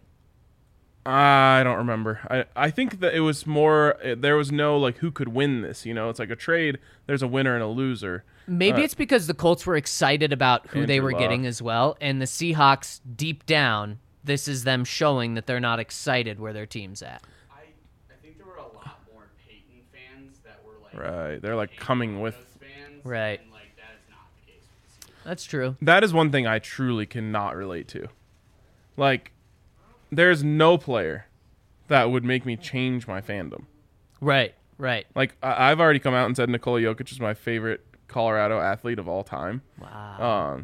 I don't remember. I think that it was more, there was no like who could win this. It's like a trade. There's a winner and a loser. Maybe it's because the Colts were excited about who they were getting as well, and the Seahawks deep down, this is them showing that they're not excited where their team's at. I think there were a lot more Peyton fans that were like Right, they're like coming with fans, right. And like that is not the case with the Seahawks. That's true. That is one thing I truly cannot relate to. Like, there's no player that would make me change my fandom. Right. Like, I've already come out and said Nikola Jokic is my favorite Colorado athlete of all time. Wow.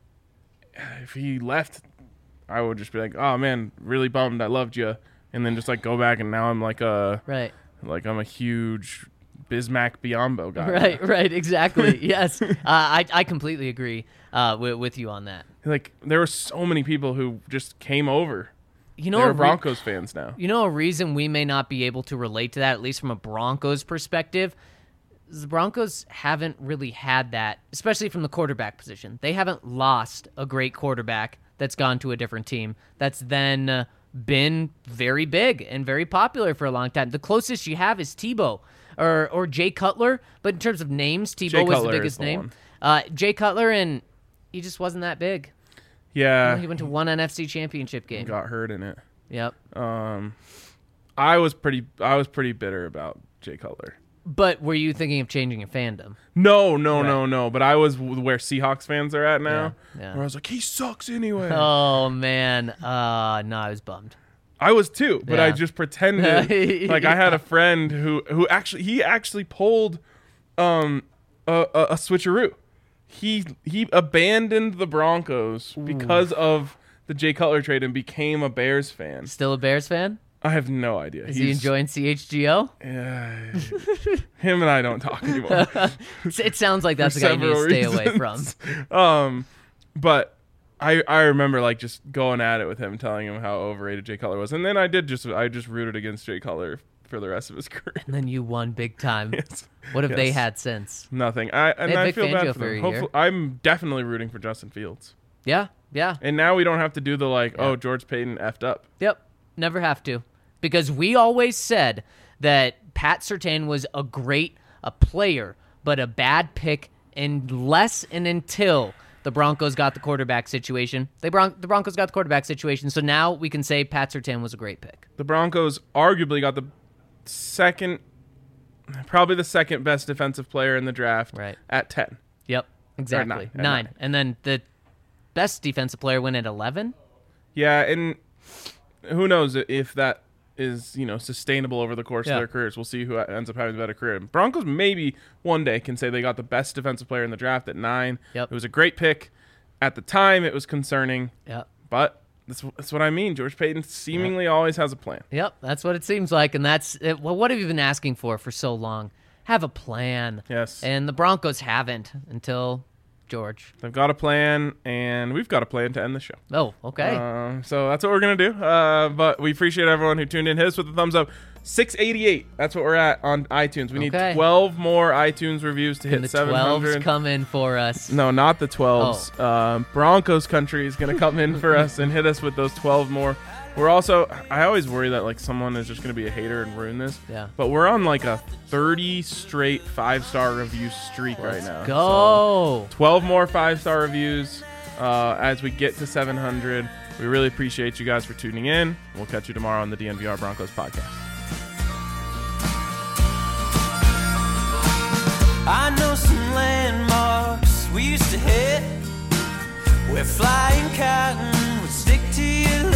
If he left, I would just be like, oh man, really bummed. I loved you. And then just like go back and now I'm like right. Like I'm a huge Bismack Biyombo guy. Right, exactly. Yes. I completely agree with you on that. Like there were so many people who just came over. You know, They're Broncos fans now. You know a reason we may not be able to relate to that, at least from a Broncos perspective, is the Broncos haven't really had that, especially from the quarterback position. They haven't lost a great quarterback that's gone to a different team that's then been very big and very popular for a long time. The closest you have is Tebow or Jay Cutler, but in terms of names, Tebow was the biggest name. Jay Cutler, and he just wasn't that big. Yeah. He went to one NFC championship game. Got hurt in it. Yep. I was pretty bitter about Jay Cutler. But were you thinking of changing your fandom? No. But I was where Seahawks fans are at now. Yeah. Where I was like, he sucks anyway. Oh, man. No, I was bummed. I was too, but Yeah. I just pretended. Like I had a friend who actually pulled a switcheroo. He abandoned the Broncos because of the Jay Cutler trade and became a Bears fan. Still a Bears fan? I have no idea. Is he enjoying CHGO? Him and I don't talk anymore. It sounds like that's the guy you need to stay away from. But I remember like just going at it with him, telling him how overrated Jay Cutler was, and then I just rooted against Jay Cutler for the rest of his career. And then you won big time. Yes. What have they Yes. had since? Nothing. I Vic feel Fangio bad for for a them. year. Hopefully, I'm definitely rooting for Justin Fields. Yeah. And now we don't have to do the oh, George Payton effed up. Yep. Never have to. Because we always said that Pat Surtain was a player, but a bad pick unless and until the Broncos got the quarterback situation. The Broncos got the quarterback situation, so now we can say Pat Surtain was a great pick. The Broncos arguably got probably the second best defensive player in the draft at 10. Yep, exactly. Nine. And then the best defensive player went at 11. Yeah, and who knows if that is, sustainable over the course of their careers. We'll see who ends up having the better career. Broncos maybe one day can say they got the best defensive player in the draft at 9. Yep. It was a great pick. At the time, it was concerning. Yep. But that's what I mean. George Payton seemingly always has a plan. Yep, that's what it seems like. And that's it. Well, what have you been asking for so long? Have a plan. Yes. And the Broncos haven't until George. They've got a plan, and we've got a plan to end the show. Oh, okay. So that's what we're going to do. But we appreciate everyone who tuned in. Hit us with a thumbs up. 688. That's what we're at on iTunes. We need 12 more iTunes reviews to hit the 700. 12s come in for us. No, not the 12s. Broncos country is going to come in for us and hit us with those 12 more. We're also, I always worry that someone is just going to be a hater and ruin this. Yeah. But we're on a 30 straight 5-star review streak right now. Go. So 12 more 5-star reviews as we get to 700. We really appreciate you guys for tuning in. We'll catch you tomorrow on the DNVR Broncos podcast. I know some landmarks we used to hit where flying cotton would stick to your